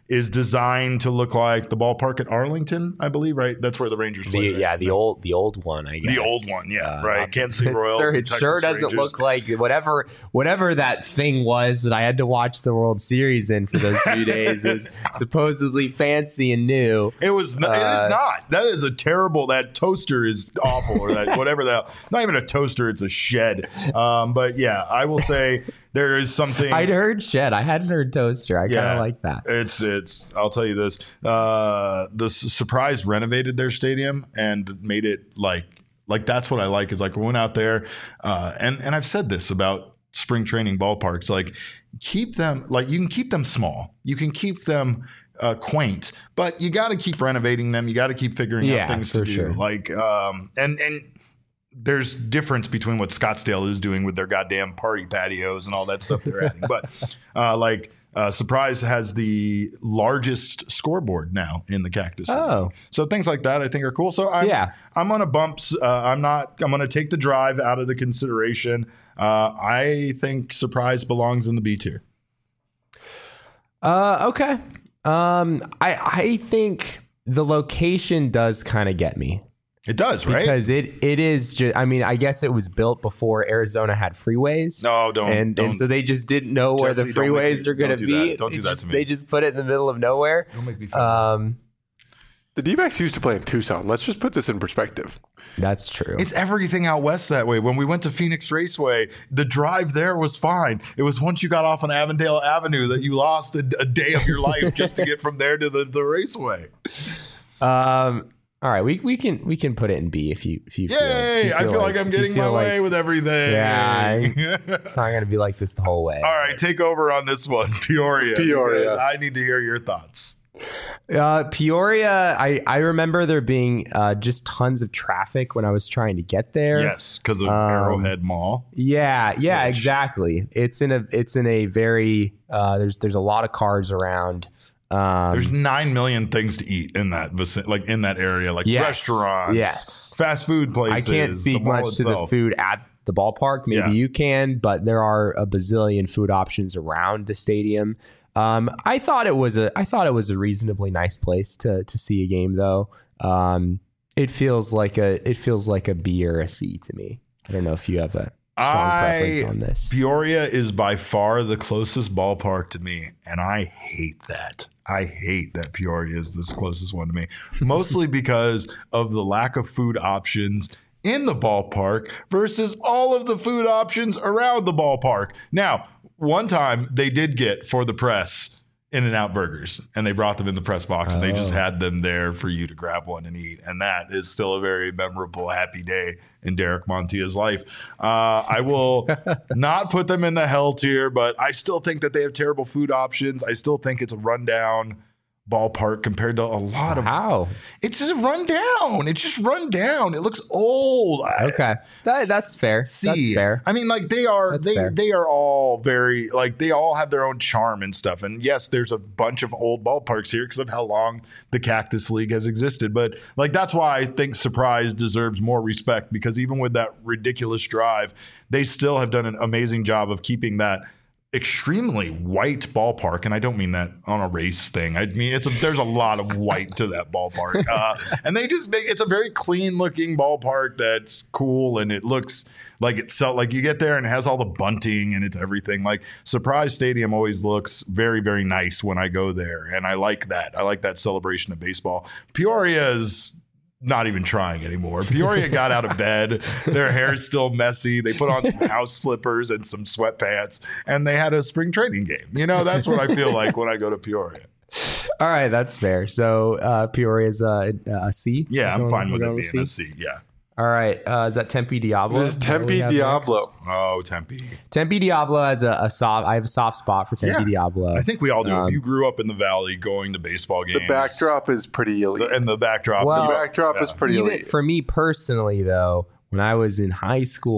A: is designed to look like the ballpark at Arlington, I believe, right? That's where the Rangers play.
C: The,
A: right?
C: yeah, the old the old one, I guess.
A: The old one, yeah,
C: Uh,
A: right. Kansas City
C: it
A: Royals.
C: sure,
A: and
C: it
A: Texas
C: sure doesn't
A: Rangers.
C: look like whatever whatever that thing was that I had to watch the World Series in for those few days is supposedly fancy and new.
A: It was. N- it
C: Uh,
A: is not. That is a terrible. That toaster is awful, or that whatever that. Not even a toaster. It's a shed. Um, but yeah, I will say there is something.
C: I'd heard shed. I hadn't heard toaster. I kind
A: Yeah.
C: of like that.
A: It's it's. I'll tell you this. Uh, the S- Surprise renovated their stadium and made it like like that's what I like. Is like we went out there, uh, and and I've said this about spring training ballparks. Like keep them like you can keep them small. You can keep them. Uh, quaint, but you got to keep renovating them. You got to keep figuring
C: Yeah,
A: out things
C: for
A: to do.
C: sure.
A: Like, um, and and there's difference between what Scottsdale is doing with their goddamn party patios and all that stuff they're adding. But uh, like, uh, Surprise has the largest scoreboard now in the Cactus City.
C: Oh.
A: So things like that I think are cool. So I'm,
C: Yeah.
A: I'm on a bumps. Uh, I'm not. I'm going to take the drive out of the consideration. Uh, I think Surprise belongs in the B tier.
C: Uh, okay. Um, I I think the location does kind of get me
A: It does, right?
C: because it it is just. I mean, I guess it was built before Arizona had freeways.
A: No, don't.
C: and
A: don't.
C: and so they just didn't know where the
A: Jesse, don't make
C: freeways
A: me-
C: are going to
A: don't do
C: be.
A: that. Don't do
C: They
A: that
C: just-
A: to me.
C: They just put it in the middle of nowhere.
A: Don't make me feel
C: Um,
B: The D-backs used to play in Tucson. Let's just put this in perspective.
C: that's true.
A: It's everything out west that way. When we went to Phoenix Raceway, the drive there was fine. It was once you got off on Avondale Avenue that you lost a, a day of your life just to get from there to the, the raceway.
C: Um, all right, we we can we can put it in B if you if you feel.
A: Yay!
C: if you
A: I feel like, I'm
C: if you
A: getting my
C: feel like
A: way with everything.
C: Yeah, It's not going to be like this the whole way.
A: All right, take over on this one, Peoria.
B: Peoria.
A: because I need to hear your thoughts.
C: Uh, Peoria, I, I remember there being uh, just tons of traffic when I was trying to get there.
A: Yes, because of
C: Um,
A: Arrowhead Mall.
C: Yeah, yeah,
A: Which-
C: exactly. It's in a it's in a very uh, there's there's a lot of cars around. Um,
A: There's nine million things to eat in that vicin- like in that area, like
C: Yes,
A: restaurants,
C: yes.
A: fast food
C: I
A: places.
C: can't speak
A: the mall
C: much to the
A: itself.
C: food at the ballpark. Maybe
A: Yeah.
C: you can, but there are a bazillion food options around the stadium. Um, I thought it was a I thought it was a reasonably nice place to to see a game though. Um, it feels like a it feels like a B or a C to me. I don't know if you have a strong preference
A: I
C: on this.
A: Peoria is by far the closest ballpark to me, and I hate that. I hate that Peoria is the closest one to me, mostly because of the lack of food options in the ballpark versus all of the food options around the ballpark. Now, one time they did get for the press In-N-Out burgers, and they brought them in the press box, and they just
C: Oh.
A: had them there for you to grab one and eat. And that is still a very memorable, happy day in Derek Montia's life. Uh, I will not put them in the hell tier, but I still think that they have terrible food options. I still think it's a rundown ballpark compared to a lot of.
C: How?
A: It's just run down. It's just run down. It looks old. I-
C: Okay, that, that's fair.
A: See,
C: That's fair.
A: I mean, like they are,
C: That's
A: they
C: fair.
A: they are all very like they all have their own charm and stuff. And yes, there's a bunch of old ballparks here because of how long the Cactus League has existed. But like that's why I think Surprise deserves more respect because even with that ridiculous drive, they still have done an amazing job of keeping that extremely white ballpark, and I don't mean that on a race thing. I mean it's a, there's a lot of white to that ballpark, uh, and they just they, it's a very clean looking ballpark that's cool, and it looks like it's so like you get there and it has all the bunting and it's everything. Like Surprise Stadium always looks very very nice when I go there, and I like that. I like that celebration of baseball. Peoria is not even trying anymore. Peoria got out of bed. Their hair's still messy. They put on some house slippers and some sweatpants, and they had a spring training game. You know, that's what I feel like when I go to Peoria.
C: All right, that's fair. So uh, Peoria's uh, a C.
A: Yeah,
C: We're
A: I'm
C: going-
A: fine
C: we're
A: with
C: going
A: it being a C. Yeah.
C: All right, uh, is that Tempe Diablo?
B: This is
C: Is that what we
B: Tempe
C: have
B: Diablo.
C: next?
A: Oh, Tempe.
C: Tempe Diablo has a, a soft. I have a soft spot for Tempe
A: Yeah,
C: Diablo.
A: I think we all do.
C: Um,
A: if you grew up in the Valley going to baseball games,
B: The backdrop is pretty elite.
A: the- and the backdrop.
C: Well,
B: the backdrop is
A: yeah.
B: pretty
C: Even
B: elite.
C: for me personally, though, when I was in high school,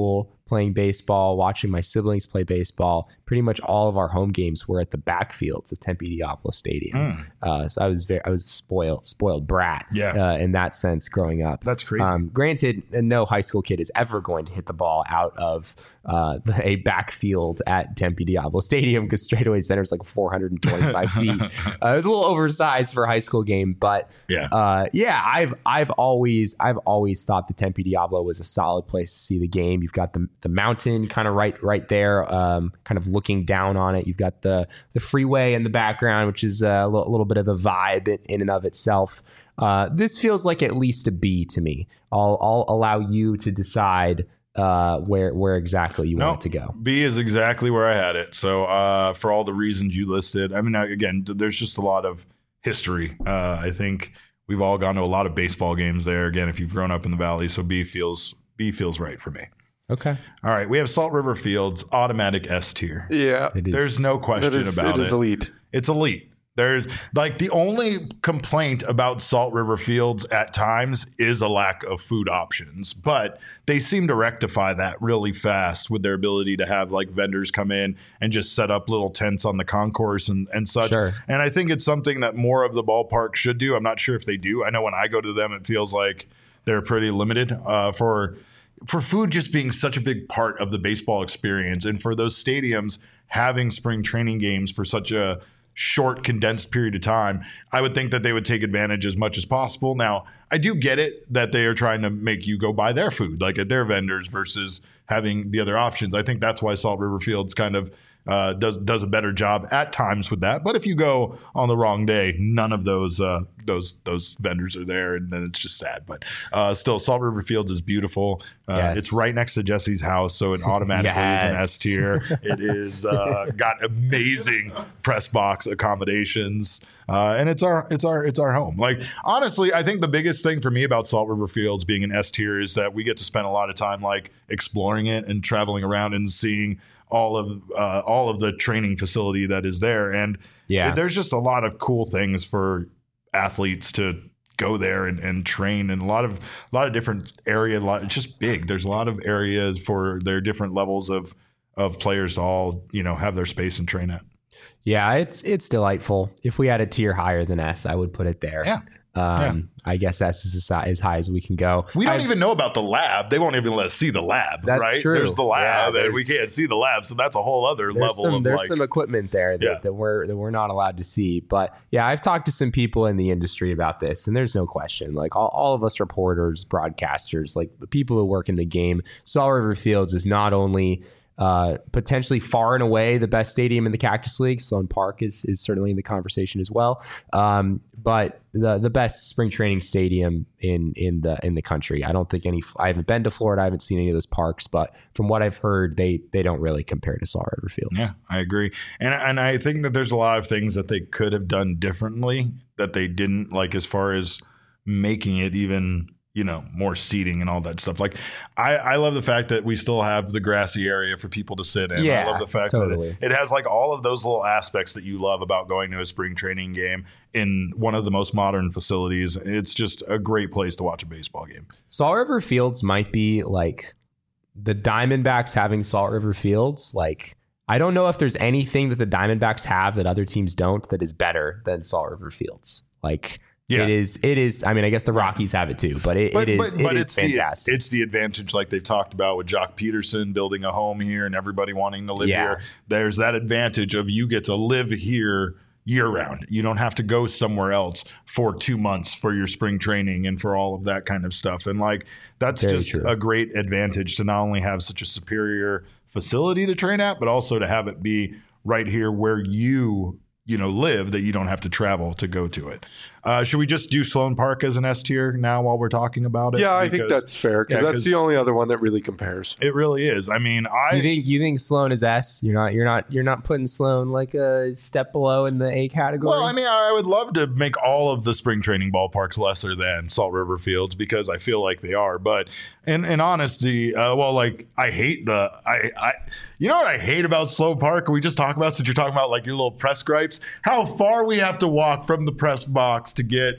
C: playing baseball, watching my siblings play baseball, pretty much all of our home games were at the backfields of Tempe Diablo Stadium. Mm. Uh, so I was very, I was a spoiled, spoiled brat
A: yeah.
C: uh, in that sense growing up.
A: That's crazy.
C: Um, granted, no high school kid is ever going to hit the ball out of uh, a backfield at Tempe Diablo Stadium because Straightaway Center is like four hundred twenty-five feet. Uh, it was a little oversized for a high school game, but
A: yeah,
C: uh, yeah, I've I've always I've always thought the Tempe Diablo was a solid place to see the game. You've got the the mountain kind of right right there, um, kind of looking down on it. You've got the the freeway in the background, which is a little, little bit of a vibe in, in and of itself. Uh, this feels like at least a B to me. I'll I'll allow you to decide uh, where where exactly you
A: no,
C: want it to go.
A: B is exactly where I had it. So uh, for all the reasons you listed, I mean, again, there's just a lot of history. Uh, I think we've all gone to a lot of baseball games there. Again, if you've grown up in the Valley, so B feels B feels right for me.
C: Okay.
A: All right. We have Salt River Fields, automatic S tier.
B: Yeah.
A: There's no question
B: it is,
A: about
B: it.
A: it.
B: It is elite.
A: It's elite. There's like the only complaint about Salt River Fields at times is a lack of food options, but they seem to rectify that really fast with their ability to have like vendors come in and just set up little tents on the concourse and, and such.
C: Sure.
A: And I think it's something that more of the ballpark should do. I'm not sure if they do. I know when I go to them, it feels like they're pretty limited uh, for for food just being such a big part of the baseball experience. And for those stadiums having spring training games for such a short, condensed period of time, I would think that they would take advantage as much as possible. Now, I do get it that they are trying to make you go buy their food, like at their vendors versus having the other options. I think that's why Salt River Fields kind of uh, does does a better job at times with that. But if you go on the wrong day, none of those uh, those those vendors are there, and then it's just sad. But uh, still, Salt River Fields is beautiful. Uh,
C: yes.
A: It's right next to Jesse's house, so it automatically
C: yes.
A: is an S tier. It is uh, got amazing press box accommodations, uh, and it's our it's our it's our home. Like honestly, I think the biggest thing for me about Salt River Fields being an S tier is that we get to spend a lot of time like exploring it and traveling around and seeing all of uh, all of the training facility that is there. And
C: yeah.
A: there's just a lot of cool things for athletes to go there and, and train in a lot of a lot of different area. A lot, it's just big. There's a lot of areas for their different levels of of players to all, you know, have their space and train at.
C: Yeah, it's it's delightful. If we had a tier higher than S, I would put it there.
A: Yeah.
C: Um,
A: yeah.
C: I guess S is as high as we can go.
A: We don't
C: I've,
A: even know about the lab. They won't even let us see the lab,
C: that's
A: right?
C: True.
A: There's the lab,
C: yeah,
A: and we can't see the lab, so that's a whole other
C: there's
A: level
C: some,
A: of
C: there's
A: like.
C: some equipment there that,
A: Yeah.
C: that we're that we're not allowed to see. But yeah, I've talked to some people in the industry about this, and there's no question. Like all, all of us reporters, broadcasters, like the people who work in the game, Salt River Fields is not only Uh, potentially far and away the best stadium in the Cactus League. Sloan Park is is certainly in the conversation as well. Um, but the the best spring training stadium in in the in the country. I don't think any. I haven't been to Florida. I haven't seen any of those parks, but from what I've heard, they they don't really compare to Salt River Fields.
A: Yeah, I agree, and and I think that there's a lot of things that they could have done differently that they didn't, like as far as making it even, you know, more seating and all that stuff. Like I, I love the fact that we still have the grassy area for people to sit in.
C: Yeah,
A: I love the fact
C: totally.
A: that it, it has like all of those little aspects that you love about going to a spring training game in one of the most modern facilities. It's just a great place to watch a baseball game.
C: Salt River Fields might be like the Diamondbacks having Salt River Fields. Like, I don't know if there's anything that the Diamondbacks have that other teams don't that is better than Salt River Fields. Like, yeah. It is. It is. I mean, I guess the Rockies have it too, but it,
A: but,
C: it is.
A: But, but
C: it
A: it's
C: is fantastic.
A: The, it's the advantage, like they've talked about with Jock Peterson building a home here and everybody wanting to live
C: Yeah.
A: here. There's that advantage of you get to live here year round. You don't have to go somewhere else for two months for your spring training and for all of that kind of stuff. And like that's
C: Very
A: just
C: true.
A: a great advantage to not only have such a superior facility to train at, but also to have it be right here where you you know live, that you don't have to travel to go to it. Uh, should we just do Sloan Park as an S tier now while we're talking about it?
B: Yeah, I
A: Because
B: think that's fair because
A: yeah,
B: that's the
A: 'cause-
B: only other one that really compares.
A: it really is. I mean, I
C: You think you think Sloan is S? You're not. You're not. You're not putting Sloan like a step below in the A category.
A: well, I mean, I would love to make all of the spring training ballparks lesser than Salt River Fields because I feel like they are. But in in honesty, uh, well, like I hate the I I you know what I hate about Sloan Park? We just talk about since you're talking about like your little press gripes, how far we have to walk from the press box to get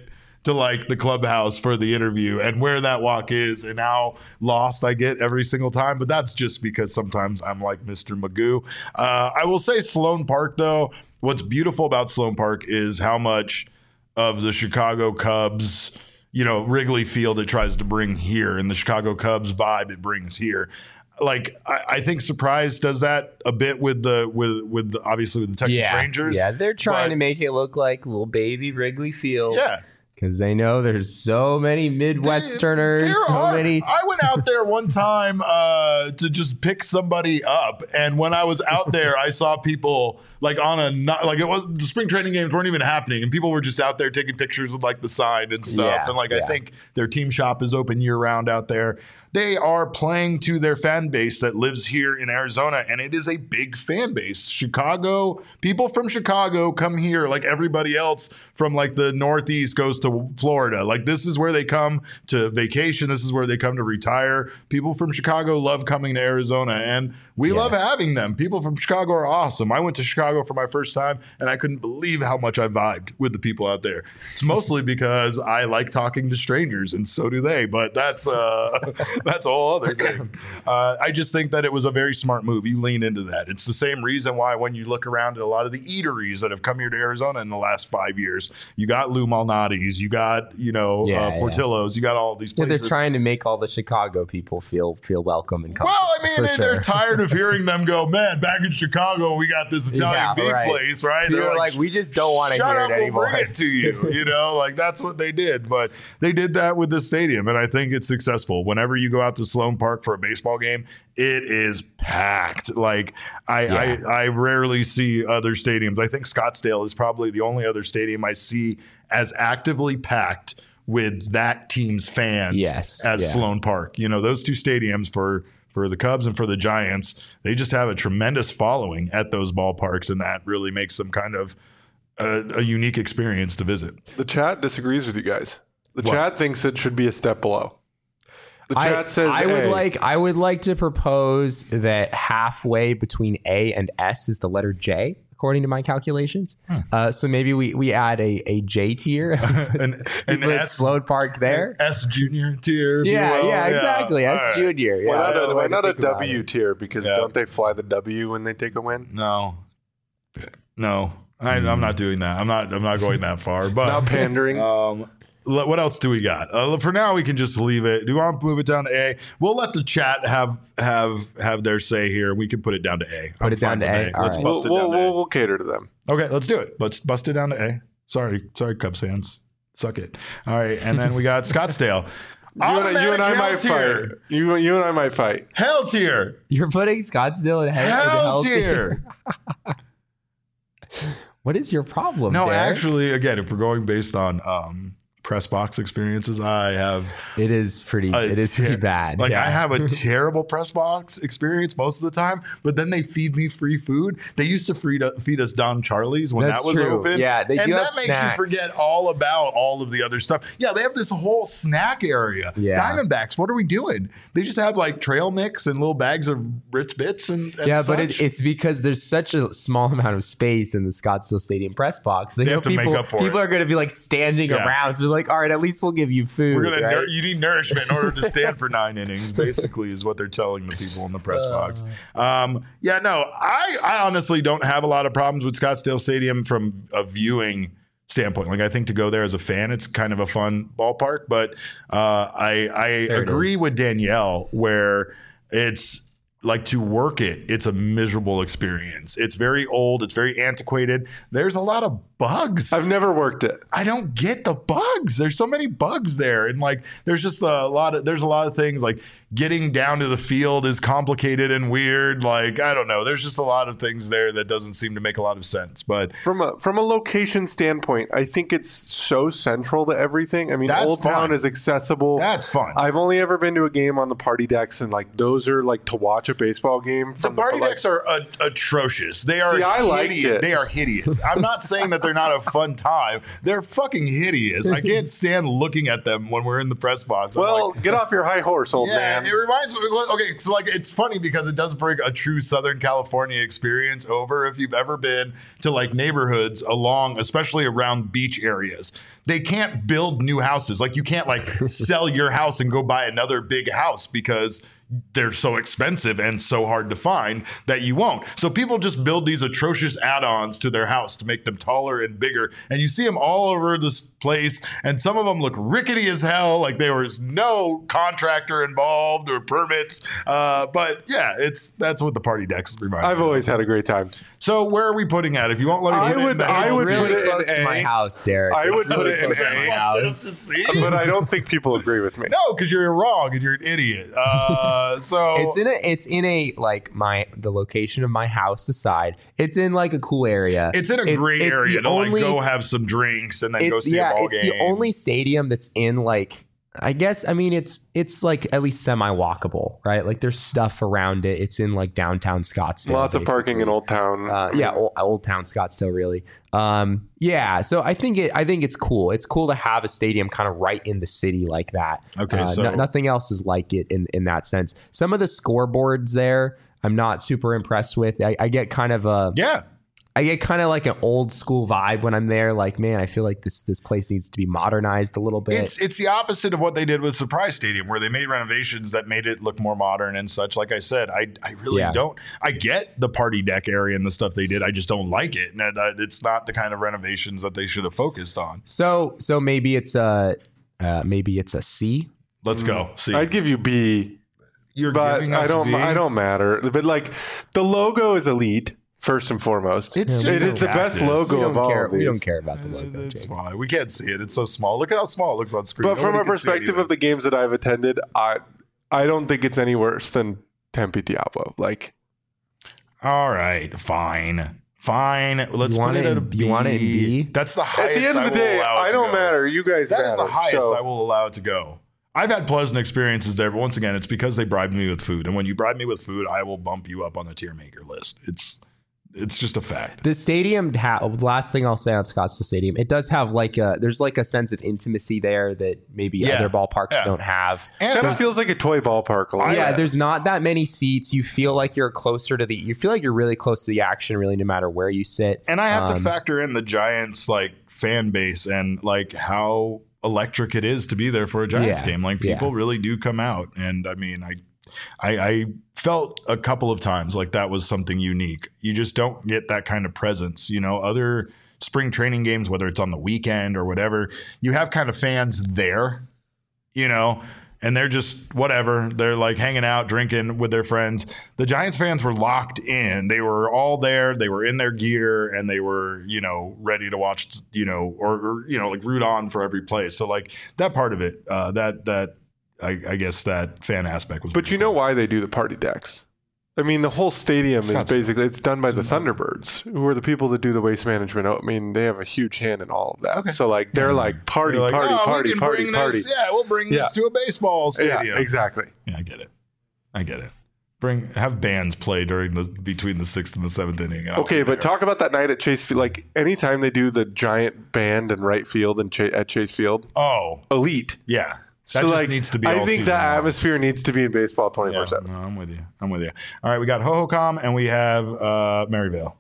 A: to like the clubhouse for the interview and where that walk is and how lost I get every single time. But that's just because sometimes I'm like Mister Magoo. Uh, I will say Sloan Park, though, what's beautiful about Sloan Park is how much of the Chicago Cubs, you know, Wrigley Field it tries to bring here and the Chicago Cubs vibe it brings here. Like I, I think Surprise does that a bit with the with with the, obviously with the Texas
C: yeah,
A: Rangers.
C: Yeah, they're trying
A: but,
C: to make it look like little baby Wrigley Field.
A: Yeah.
C: Because they know there's so many Midwesterners,
A: There
C: so
A: are.
C: many.
A: I went out there one time uh, to just pick somebody up, and when I was out there, I saw people like on a not, like it was the spring training games weren't even happening, and people were just out there taking pictures with like the sign and stuff.
C: Yeah,
A: and like
C: yeah.
A: I think their team shop is open year round out there. They are playing to their fan base that lives here in Arizona, and it is a big fan base. Chicago, people from Chicago come here like everybody else from like the Northeast goes to Florida. Like this is where they come to vacation. This is where they come to retire. People from Chicago love coming to Arizona, and we
C: Yes.
A: love having them. People from Chicago are awesome. I went to Chicago for my first time, and I couldn't believe how much I vibed with the people out there. It's mostly because I like talking to strangers, and so do they. But that's uh, that's a whole other thing. Uh, I just think that it was a very smart move. You lean into that. It's the same reason why when you look around at a lot of the eateries that have come here to Arizona in the last five years, you got Lou Malnati's, you got you know
C: Yeah,
A: uh,
C: yeah.
A: Portillo's, you got all these
C: Yeah,
A: places.
C: they're trying to make all the Chicago people feel feel welcome and comfortable.
A: Well, I mean,
C: for
A: they,
C: sure.
A: they're tired of hearing them go, man, back in Chicago, we got this Italian
C: Yeah,
A: beef
C: right.
A: place, right?
C: People
A: They're
C: are like, we just don't want to
A: shut
C: hear
A: up,
C: it anymore.
A: we'll bring it to you. You know, like that's what they did. But they did that with the stadium, and I think it's successful. Whenever you go out to Sloan Park for a baseball game, it is packed. Like I,
C: Yeah.
A: I, I rarely see other stadiums. I think Scottsdale is probably the only other stadium I see as actively packed with that team's fans
C: Yes,
A: as
C: yeah.
A: Sloan Park. You know, those two stadiums for for the Cubs and for the Giants, they just have a tremendous following at those ballparks, and that really makes them kind of a, a unique experience to visit.
B: The chat disagrees with you guys. The
A: What?
B: chat thinks it should be a step below. The
C: I,
B: chat says
C: I would
B: A.
C: like I would like to propose that halfway between A and S is the letter J, according to my calculations.
A: Hmm.
C: Uh, so maybe we, we add a, a J tier.
A: An, an
C: Put
A: S,
C: Sloan Park there.
A: S junior tier. if you
C: Yeah,
A: will.
C: yeah, exactly.
A: All
C: S
A: right.
C: junior. Yeah,
B: Why not
C: that's
B: a,
C: the
B: why
C: way to
B: not a
C: think about
B: W
C: it.
B: tier? Because
A: Yeah.
B: don't they fly the W when they take a win?
A: No, no, I, I'm not doing that. I'm not. I'm not going that far. But
B: Not pandering.
A: Um, le- what else do we got? Uh, for now, we can just leave it. Do you want to move it down to A? We'll let the chat have have have their say here. We can put it down to A.
C: Put it down
A: fine
C: to
A: with
C: A? All
A: Let's
C: right.
A: bust
B: we'll,
A: it down
B: we'll,
A: to A.
B: we'll, we'll cater to them.
A: Okay, let's do it. Let's bust it down to A. Sorry, sorry, Cubs fans. Suck it. All right, and then we got Scottsdale.
B: You and, I- you and I
A: Automatic
B: might
A: hell tier.
B: fight. You, you and I might fight.
A: Hell tier.
C: You're putting Scottsdale in hell, in the
A: Hell
C: hell
A: tier.
C: What is your problem?
A: No,
C: Derek?
A: actually, again, if we're going based on um, press box experiences, I have
C: it is pretty.
A: a
C: It is
A: ter-
C: pretty bad.
A: Like
C: yeah.
A: I have a terrible press box experience most of the time, but then they feed me free food. They used to feed, feed us Don Charlie's when
C: That's
A: that was
C: true.
A: open.
C: Yeah, they
A: and
C: do
A: that
C: have
A: makes
C: snacks.
A: you forget all about all of the other stuff. Yeah, they have this whole snack area.
C: Yeah.
A: Diamondbacks, what are we doing? They just have like trail mix and little bags of Ritz Bits and, and
C: Yeah, but
A: such.
C: it, it's because there's such a small amount of space in the Scottsdale Stadium press box. They,
A: They
C: know
A: have to make
C: people,
A: up for
C: people
A: it.
C: are going to be like standing
A: Yeah.
C: around. So they're like, all right, at least we'll give you food.
A: We're gonna.
C: right?
A: Nour- you need nourishment in order to stand for nine innings. Basically, is what they're telling the people in the press box. Um, yeah, no, I, I honestly don't have a lot of problems with Scottsdale Stadium from a viewing standpoint. Like, I think to go there as a fan, it's kind of a fun ballpark. But uh, I, I
C: There it
A: agree
C: is.
A: with Danielle where it's. Like to work it, it's a miserable experience. It's very old. It's very antiquated. There's a lot of bugs.
B: I've never worked it.
A: I don't get the bugs. There's so many bugs there, and like there's just a lot of there's a lot of things like getting down to the field is complicated and weird. Like I don't know. There's just a lot of things there that doesn't seem to make a lot of sense. But
B: From a from a location standpoint, I think it's so central to everything. I mean,
A: That's
B: Old Town
A: fun.
B: is accessible.
A: that's fun.
B: I've only ever been to a game on the party decks, and like those are like to watch a baseball game.
A: the
B: From
A: party
B: like,
A: decks are uh, atrocious. They are
B: See, I liked
A: hideous.
B: it.
A: They are hideous. I'm not saying that they're not a fun time. They're fucking hideous. I can't stand looking at them when we're in the press box. I'm
B: Well,
A: like,
B: get off your high horse, old
A: yeah,
B: man.
A: It, it reminds me. well, Okay, so like it's funny because it does bring a true Southern California experience over. If you've ever been to like neighborhoods along, especially around beach areas, they can't build new houses. Like you can't like sell your house and go buy another big house because they're so expensive and so hard to find that you won't. So people just build these atrocious add-ons to their house to make them taller and bigger. And you see them all over this place. And some of them look rickety as hell. Like there was no contractor involved or permits. Uh, but yeah, it's that's what the party decks remind me
B: I've
A: of.
B: always had a great time.
A: So where are we putting it? If you won't let me
B: I
A: put it in
B: would-
A: the
B: I
A: house,
B: would
A: it's
B: put
C: really
B: it in
C: close to
B: A.
C: my house, Derek.
B: I
C: It's
B: would put
C: really
B: it in
C: close to
B: A.
C: my
A: Busted up to
C: house.
A: C?
B: But I don't think people agree with me.
A: No, because you're wrong and you're an idiot. Uh, so
C: It's in a it's in a like my the location of my house aside. It's in like a cool area.
A: it's in a great
C: it's
A: area
C: the
A: to
C: only-
A: like go have some drinks and then go
C: It's
A: see
C: yeah,
A: a ball
C: it's
A: game.
C: the only stadium that's in like I guess I mean it's it's like at least semi walkable, right? Like there's stuff around it. It's in like downtown Scottsdale.
B: Lots of parking in
C: basically.
B: Old Town.
C: Uh, yeah, old, old town Scottsdale, really. Um, yeah, so I think it. I think it's cool. It's cool to have a stadium kind of right in the city like that.
A: Okay,
C: Uh,
A: so-
C: no- nothing else is like it in in that sense. Some of the scoreboards there, I'm not super impressed with. I, I get kind of a.
A: Yeah.
C: I get kind of like an old school vibe when I'm there. Like, man, I feel like this this place needs to be modernized a little bit.
A: It's it's the opposite of what they did with Surprise Stadium, where they made renovations that made it look more modern and such. Like I said, I I really
C: Yeah.
A: don't. I get the party deck area and the stuff they did. I just don't like it. And uh, it's not the kind of renovations that they should have focused on.
C: so so maybe it's a uh, maybe it's a C.
A: Let's go. See,
B: I'd give you B,
A: you're
B: but
A: giving us
B: I don't.
A: B?
B: I don't matter. But like, the logo is elite first and foremost.
A: It's
B: it
A: just
B: is
A: a
B: the best
A: cactus.
B: logo
C: We
B: of
C: don't
B: all
C: care.
B: of
C: We
B: these.
C: don't care about the logo.
A: It's
C: Jake.
A: fine. We can't see it. It's so small. Look at how small it looks on screen.
B: But from
A: Nobody
B: a
A: can see
B: perspective
A: anything.
B: of the games that I've attended, I I don't think it's any worse than Tempe Diablo. Like,
A: All right, fine. Fine. Let's
C: You
A: put
C: want
A: it
C: it
A: at a
C: in-
A: B.
C: you want it in B?
A: That's the highest.
B: at the end of
A: I
B: the
A: will
B: day,
A: allow it
B: I
A: to
B: don't
A: go.
B: matter. You guys
A: That
B: matter.
A: is the highest
B: So-
A: I will allow it to go. I've had pleasant experiences there, but once again, it's because they bribed me with food. And when you bribe me with food, I will bump you up on the tier maker list. It's it's just a fact.
C: The stadium, ha- last thing I'll say on Scottsdale Stadium, it does have like a, there's like a sense of intimacy there that maybe
A: Yeah.
C: other ballparks
A: Yeah.
C: don't have.
A: And
B: Kind
A: there's-
B: of feels like a toy ballpark. A little
A: I-
C: yeah,
B: bit.
C: there's not that many seats. You feel like you're closer to the, you feel like you're really close to the action, really, no matter where you sit.
A: And I have to
C: Um,
A: factor in the Giants like fan base and like how electric it is to be there for a Giants
C: Yeah,
A: game. Like
C: yeah.
A: people really do come out. And I mean, I, I I felt a couple of times like that was something unique. You just don't get that kind of presence. You know, other spring training games, whether it's on the weekend or whatever, you have kind of fans there, you know, and they're just whatever. They're like hanging out, drinking with their friends. The Giants fans were locked in. They were all there. They were in their gear and they were, you know, ready to watch, you know, or, or you know, like root on for every play. So like that part of it, uh, that, that, I, I guess that fan aspect was.
B: But
A: pretty
B: you know
A: cool.
B: why they do the party decks? I mean, the whole stadium is
A: Scottsdale.
B: basically, it's done by the Thunderbirds, who are the people that do the waste management. I mean, they have a huge hand in all of that.
A: Okay.
B: So, like, they're like, party,
A: They're like,
B: party,
A: "Oh, we
B: party,
A: can
B: party,
A: bring
B: party.
A: This, yeah, we'll bring
B: Yeah.
A: this to a baseball stadium.
B: Yeah, exactly.
A: Yeah, I get it. I get it. Bring have bands play during the between the sixth and the seventh inning. I'll
B: Okay,
A: be
B: but
A: there.
B: talk about that night at Chase Field. Like, anytime they do the giant band in right field and Ch- at Chase Field,
A: Oh,
B: elite.
A: yeah. That
B: so,
A: just
B: like,
A: needs to be.
B: I
A: all
B: think
A: season
B: that
A: long.
B: atmosphere needs to be in baseball
A: Yeah,
B: twenty-four seven.
A: no, I'm with you. I'm with you. All right, we got Hohokam and we have uh, Maryvale.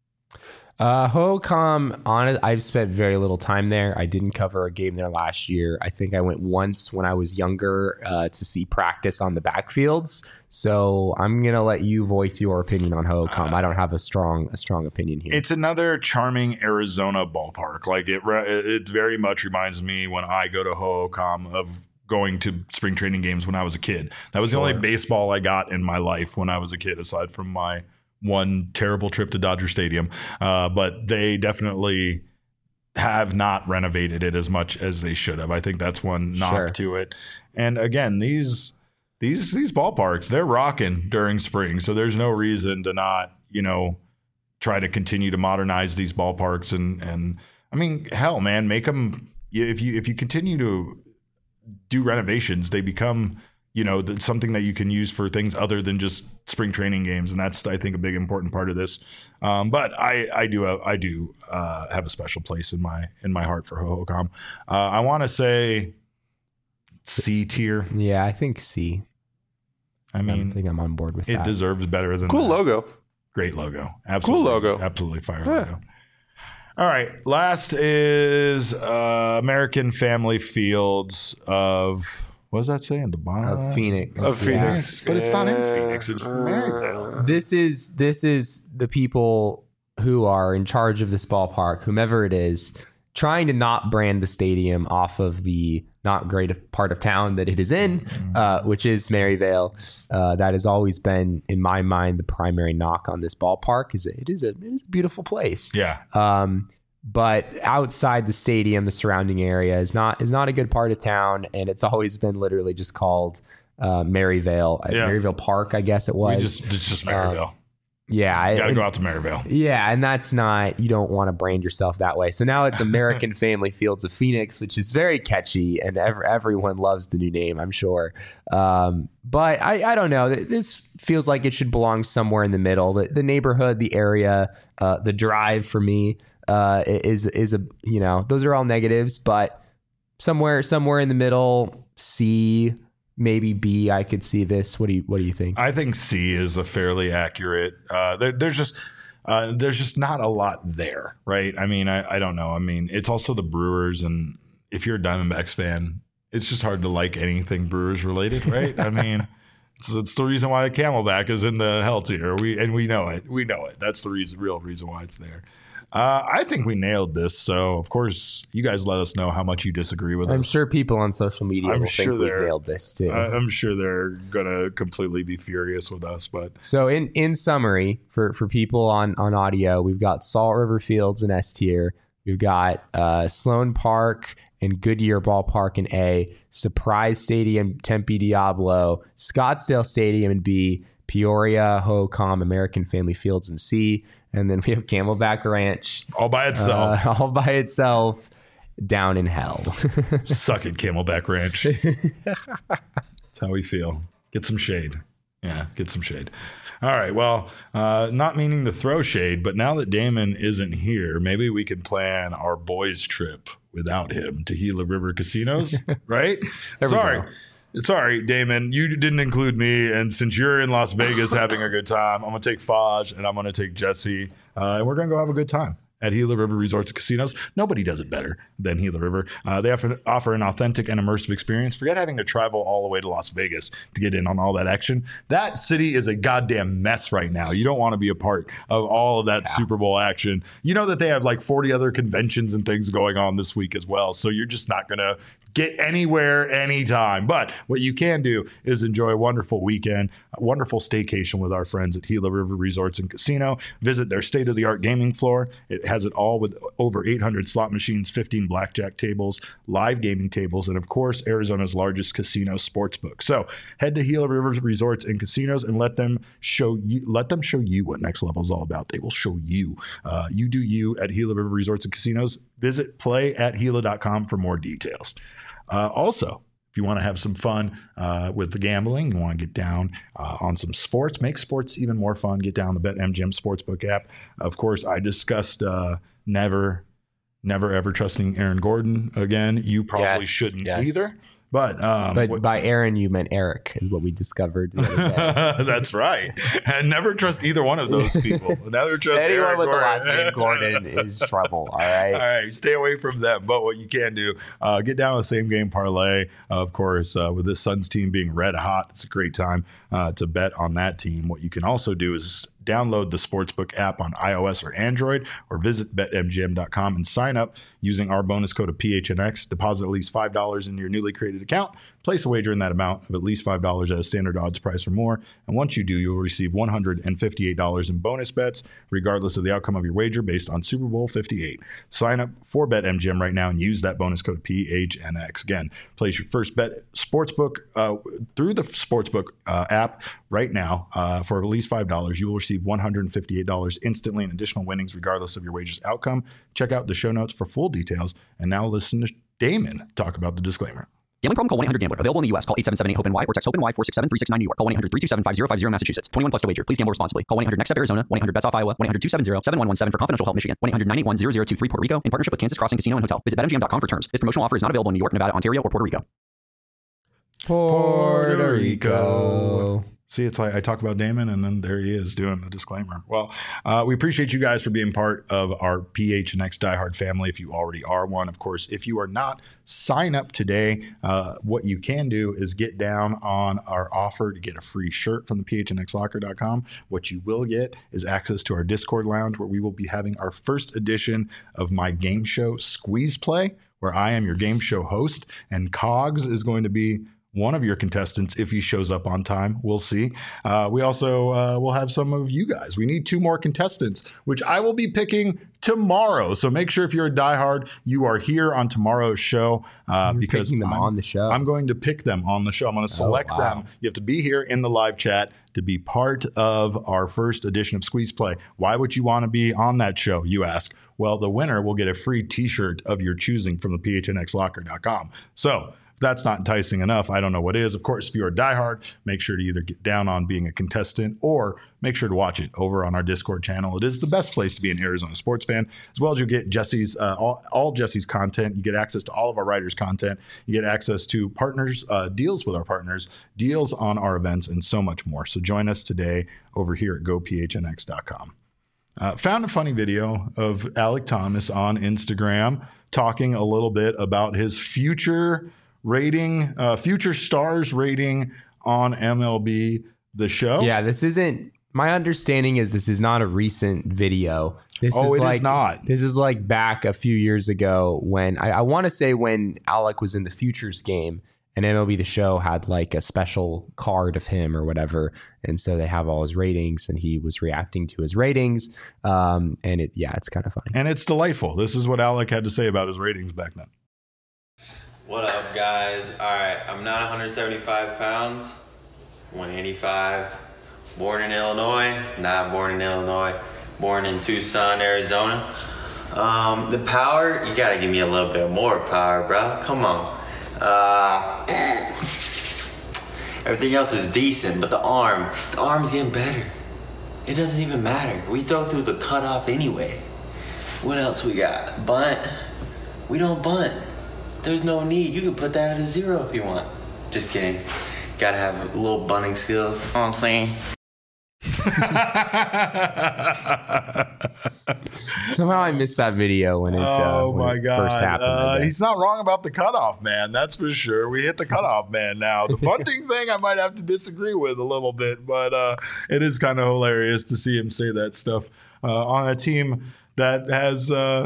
C: Uh, Hohokam, on I've spent very little time there. I didn't cover a game there last year. I think I went once when I was younger uh, to see practice on the backfields. So I'm gonna let you voice your opinion on Hohokam. I don't have a strong a strong opinion here.
A: It's another charming Arizona ballpark. Like it, re- it very much reminds me when I go to Hohokam of going to spring training games when I was a kid. That was the only baseball I got in my life when I was a kid, aside from my one terrible trip to Dodger Stadium. Uh, but they definitely have not renovated it as much as they should have. I think that's one knock
C: Sure.
A: to it. And again, these these these ballparks, they're rocking during spring, so there's no reason to not, you know, try to continue to modernize these ballparks. And and I mean, hell, man, make them. If you if you continue to do renovations, they become, you know, the, something that you can use for things other than just spring training games, and that's, I think, a big important part of this. Um, but I, I do, have, I do uh, have a special place in my in my heart for Hohokam. Uh, I want to say C tier.
C: yeah, I think C.
A: I mean,
C: I think I'm on board with
A: it
C: that.
A: deserves better than
B: Cool
A: that.
B: logo.
A: Great logo. Absolutely.
B: Cool logo.
A: Absolutely fire
B: Yeah.
A: logo. All right. Last is uh, American Family Fields of, what does that say in the bottom?
C: Of Phoenix.
B: Of
C: Yeah.
B: Phoenix.
A: But it's not in Phoenix. It's Maryvale.
C: This is this is the people who are in charge of this ballpark, whomever it is, trying to not brand the stadium off of the not great part of town that it is in, uh, which is Maryvale. Uh, that has always been, in my mind, the primary knock on this ballpark. Is that it is a it is a beautiful place.
A: Yeah.
C: Um, but outside the stadium, the surrounding area is not is not a good part of town, and it's always been literally just called uh, Maryvale,
A: Yeah.
C: Maryvale Park, I guess it was.
A: We just, it's just Maryvale.
C: yeah, I-
A: Got to
C: and-
A: go out to Maryvale.
C: yeah, and that's not, you don't want to brand yourself that way. So now it's American Family Fields of Phoenix, which is very catchy, and ev- everyone loves the new name, I'm sure. Um, but I, I don't know. This feels like it should belong somewhere in the middle. The, the neighborhood, the area, uh, the drive for me uh, is is a you know those are all negatives, but somewhere somewhere in the middle, C. Maybe B, I could see this. What do you What do you think?
A: I think C is a fairly accurate. Uh, there, there's just uh, there's just not a lot there, right? I mean, I, I don't know. I mean, it's also the Brewers, and if you're a Diamondbacks fan, it's just hard to like anything Brewers related, right? I mean, it's, it's the reason why the Camelback is in the hell tier. We and we know it. We know it. That's the reason, real reason why it's there. Uh, I think we nailed this. So, of course, you guys let us know how much you disagree with
C: I'm
A: us.
C: sure people on social media
A: I'm
C: will
A: sure
C: think we've
A: they're-
C: nailed this too.
A: I- I'm sure they're gonna completely be furious with us, but
C: So in in summary, for for people on on audio, we've got Salt River Fields in S tier. We've got uh, Sloan Park and Goodyear Ballpark in A, Surprise Stadium, Tempe Diablo, Scottsdale Stadium in B, Peoria, Ho-Com, American Family Fields in C, and then we have Camelback Ranch
A: all by itself.
C: uh, all by itself down in hell.
A: Suck it, Camelback Ranch. That's how we feel. Get some shade. Yeah, get some shade. All right. Well, uh, not meaning to throw shade, but now that Damon isn't here, maybe we can plan our boys' trip without him to Gila River Casinos, right?
C: we
A: Sorry.
C: go.
A: Sorry, Damon, you didn't include me. And since you're in Las Vegas having a good time, I'm going to take Faj and I'm going to take Jesse. Uh, and we're going to go have a good time at Gila River Resorts and Casinos. Nobody does it better than Gila River. Uh, they offer, offer an authentic and immersive experience. Forget having to travel all the way to Las Vegas to get in on all that action. That city is a goddamn mess right now. You don't want to be a part of all of that Super Bowl action. You know that they have like forty other conventions and things going on this week as well. So you're just not going to get anywhere, anytime. But what you can do is enjoy a wonderful weekend, a wonderful staycation with our friends at Gila River Resorts and Casino. Visit their state-of-the-art gaming floor. It has it all with over eight hundred slot machines, fifteen blackjack tables, live gaming tables, and of course, Arizona's largest casino sportsbook. So head to Gila River Resorts and Casinos and let them show you, let them show you what Next Level is all about. They will show you. Uh, you do you at Gila River Resorts and Casinos. Visit play at Gila dot com for more details. Uh, also, if you want to have some fun uh, with the gambling, you want to get down uh, on some sports, make sports even more fun, get down the BetMGM Sportsbook app. Of course, I discussed uh, never, never, ever trusting Aaron Gordon again. You probably
C: Yes,
A: shouldn't
C: yes.
A: either. But, um,
C: But
A: what-
C: by Aaron, you meant Eric, is what we discovered the other day.
A: that's right. And never trust either one of those people. Never trust
C: Anyone
A: Aaron
C: with the
A: Gordon.
C: last name Gordon is trouble. All right.
A: All right, stay away from them. But what you can do, uh, get down a same game parlay. Uh, of course, uh, with this Suns team being red hot, it's a great time uh, to bet on that team. What you can also do is download the Sportsbook app on iOS or Android, or visit bet M G M dot com and sign up using our bonus code of P H N X. Deposit at least five dollars in your newly created account. Place a wager in that amount of at least five dollars at a standard odds price or more. And once you do, you'll receive one hundred fifty-eight dollars in bonus bets, regardless of the outcome of your wager based on Super Bowl fifty-eight. Sign up for BetMGM right now and use that bonus code P H N X. Again, place your first bet Sportsbook uh, through the Sportsbook uh, app right now uh, for at least five dollars. You will receive one hundred fifty-eight dollars instantly in additional winnings, regardless of your wager's outcome. Check out the show notes for full details. And now listen to Damon talk about the disclaimer.
D: Gambling problem? Call one eight hundred gambler. Available in the U S. Call eight seven seven eight hope N Y or text HOPE-NY four six seven three six nine New York. Call one eight hundred three two seven five zero five zero Massachusetts. twenty-one plus to wager. Please gamble responsibly. Call one eight hundred next step Arizona. one eight hundred bets off Iowa. one eight hundred two seven zero seven one one seven for confidential help Michigan. one eight hundred nine eight one zero zero two three Puerto Rico in partnership with Kansas Crossing Casino and Hotel. Visit bet M G M dot com for terms. This promotional offer is not available in New York, Nevada, Ontario, or Puerto Rico.
C: Puerto Rico.
A: See, it's like I talk about Damon, and then there he is doing a disclaimer. Well, uh, we appreciate you guys for being part of our P H N X Diehard family. If you already are one, of course, if you are not, sign up today. Uh, what you can do is get down on our offer to get a free shirt from the P H N X locker dot com. What you will get is access to our Discord lounge, where we will be having our first edition of my game show, Squeeze Play, where I am your game show host, and Cogs is going to be one of your contestants if he shows up on time. We'll see. Uh, we also uh, will have some of you guys. We need two more contestants, which I will be picking tomorrow. So make sure if you're a diehard, you are here on tomorrow's show uh, because
C: them
A: I'm,
C: on the show.
A: I'm going to pick them on the show. I'm going to select
C: oh, wow.
A: them. You have to be here in the live chat to be part of our first edition of Squeeze Play. Why would you want to be on that show, you ask? Well, the winner will get a free t-shirt of your choosing from the P H N X locker dot com. So that's not enticing enough. I don't know what is. Of course, if you're a diehard, make sure to either get down on being a contestant or make sure to watch it over on our Discord channel. It is the best place to be an Arizona sports fan, as well as you get Jesse's uh, all, all Jesse's content. You get access to all of our writers' content. You get access to partners, uh, deals with our partners, deals on our events, and so much more. So join us today over here at go P H N X dot com. Uh, found a funny video of Alec Thomas on Instagram talking a little bit about his future rating, uh, future stars rating on M L B The Show.
C: Yeah, this isn't, my understanding is this is not a recent video. This
A: Oh,
C: is
A: it is
C: like,
A: not.
C: This is like back a few years ago when, I, I want to say when Alec was in the Futures game and M L B The Show had like a special card of him or whatever. And so they have all his ratings and he was reacting to his ratings. Um, and it, yeah, it's kind of funny.
A: And it's delightful. This is what Alec had to say about his ratings back then.
E: What up, guys? Alright, I'm not one hundred seventy-five pounds, one eighty-five, born in Illinois, not born in Illinois, born in Tucson, Arizona. Um, the power, you gotta give me a little bit more power, bro. Come on. Uh, everything else is decent, but the arm, the arm's getting better. It doesn't even matter. We throw through the cutoff anyway. What else we got? Bunt? We don't bunt. There's no need. You can put that at a zero if you want. Just kidding. Gotta have a little bunting skills. You know what I'm saying?
C: Somehow I missed that video when it, uh,
A: Oh
C: when
A: my
C: it
A: God.
C: first happened. I
A: Uh,
C: guess.
A: he's not wrong about the cutoff man. That's for sure. We hit the cutoff man now. The bunting thing I might have to disagree with a little bit, but uh, it is kind of hilarious to see him say that stuff uh, on a team that has, uh,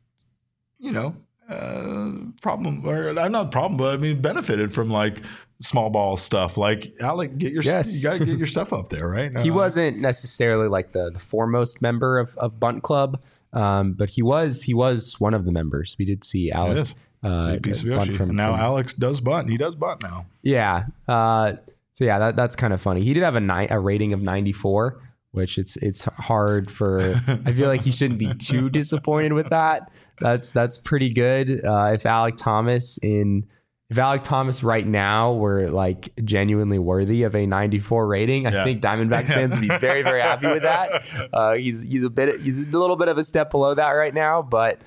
A: you know, uh, problem, or I'm not problem, but I mean, benefited from like small ball stuff. Like, Alec, get your,
C: Yes.
A: you got to get your stuff up there, right?
C: He
A: Uh,
C: wasn't necessarily like the, the foremost member of, of Bunt Club, um, but he was he was one of the members. We did see
A: It
C: Alec
A: is.
C: uh,
A: See, piece of
C: bunt
A: Yoshi.
C: from,
A: And now
C: from-
A: Alex does bunt. He does bunt now.
C: yeah. Uh, so yeah, that, that's kind of funny. He did have a ni- a rating of ninety-four, which it's it's hard for. I feel like he shouldn't be too disappointed with that. That's that's pretty good. Uh, if Alec Thomas in if Alec Thomas right now were like genuinely worthy of a ninety-four rating, I
A: Yeah.
C: think Diamondbacks fans would be very very happy with that. Uh, he's he's a bit he's a little bit of a step below that right now, but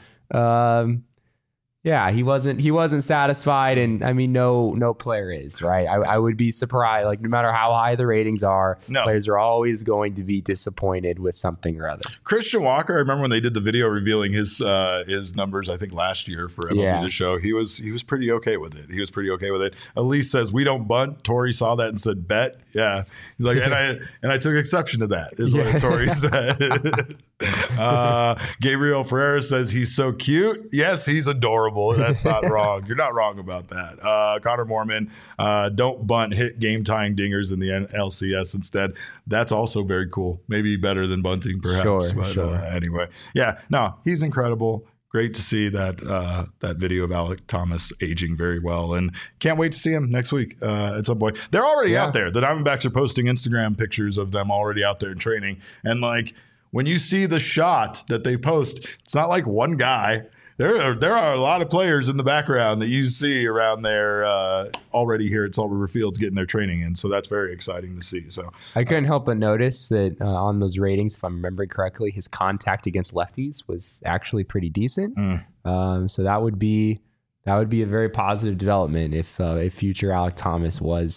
C: um, yeah, he wasn't he wasn't satisfied, and I mean no no player is, right. I, I would be surprised, like no matter how high the ratings are,
A: No.
C: players are always going to be disappointed with something or other.
A: Christian Walker, I remember when they did the video revealing his uh, his numbers, I think last year for M L B
C: Yeah.
A: The Show, he was he was pretty okay with it. He was pretty okay with it. Elise says, we don't bunt. Tori saw that and said, bet. Yeah. He's like, and I and I took exception to that, is
C: Yeah.
A: what Tori said. uh, Gabriel Ferreira says, he's so cute. Yes, he's adorable. That's not wrong. You're not wrong about that. Uh, Connor Mormon, uh, don't bunt, hit game-tying dingers in the N L C S instead. That's also very cool. Maybe better than bunting, perhaps.
C: Sure,
A: but,
C: sure.
A: Uh, anyway, yeah, no, he's incredible. Great to see that uh, that video of Alec Thomas aging very well, and can't wait to see him next week uh, at some point. They're already
C: Yeah.
A: out there. The Diamondbacks are posting Instagram pictures of them already out there in training, and like when you see the shot that they post, it's not like one guy. There are there are a lot of players in the background that you see around there uh, already here at Salt River Fields getting their training in, so that's very exciting to see. So
C: I couldn't help but notice that uh, on those ratings, if I'm remembering correctly, his contact against lefties was actually pretty decent.
A: Mm.
C: Um, so that would be that would be a very positive development if uh, if future Alec Thomas was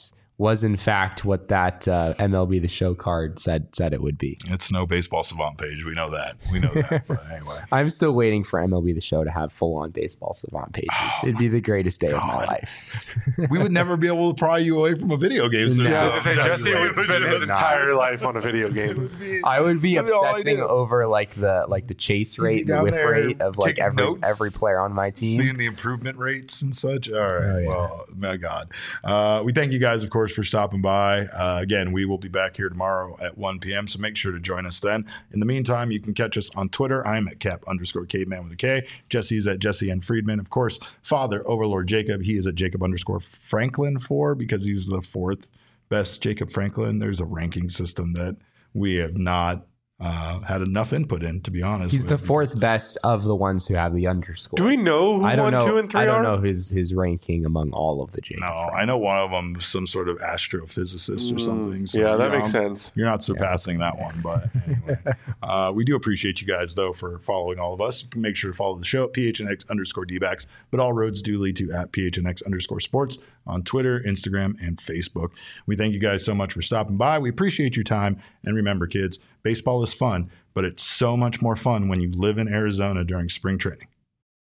C: was in fact what that uh, M L B The Show card said said it would be.
A: It's no Baseball Savant page. We know that. We know that. But anyway.
C: I'm still waiting for M L B The Show to have full-on Baseball Savant pages. Oh, It'd be the greatest day God. of my life.
A: We would never be able to pry you away from a video game. So
B: yeah, I was going to say, Jesse would spend his entire life on a video game.
C: I would be obsessing over like the like the chase rate, the whiff rate of like every notes, every player on my team.
A: Seeing the improvement rates and such. All right. Oh, yeah. Well, my God. Uh, we thank you guys, of course, for stopping by. Uh, again, we will be back here tomorrow at one p.m., so make sure to join us then. In the meantime, you can catch us on Twitter. I'm at Cap underscore Caveman with a K. Jesse's at Jesse N. Friedman. Of course, Father Overlord Jacob. He is at Jacob underscore Franklin four because he's the fourth best Jacob Franklin. There's a ranking system that we have not Uh, had enough input in, to be honest.
C: He's the fourth best of the ones who have the underscore.
B: Do we know who
C: I don't
B: one,
C: know,
B: two, and three
C: I don't
B: are?
C: know his his ranking among all of the Jacob.
A: No,
C: Franklins.
A: I know one of them, some sort of astrophysicist or something. So
B: yeah, that
A: you're
B: makes
A: on-
B: sense.
A: You're not surpassing yeah. that one, but anyway. uh, we do appreciate you guys, though, for following all of us. You can make sure to follow the show at P H N X underscore D-backs, but all roads do lead to at P H N X underscore sports on Twitter, Instagram, and Facebook. We thank you guys so much for stopping by. We appreciate your time. And remember, kids, baseball is fun, but it's so much more fun when you live in Arizona during spring training.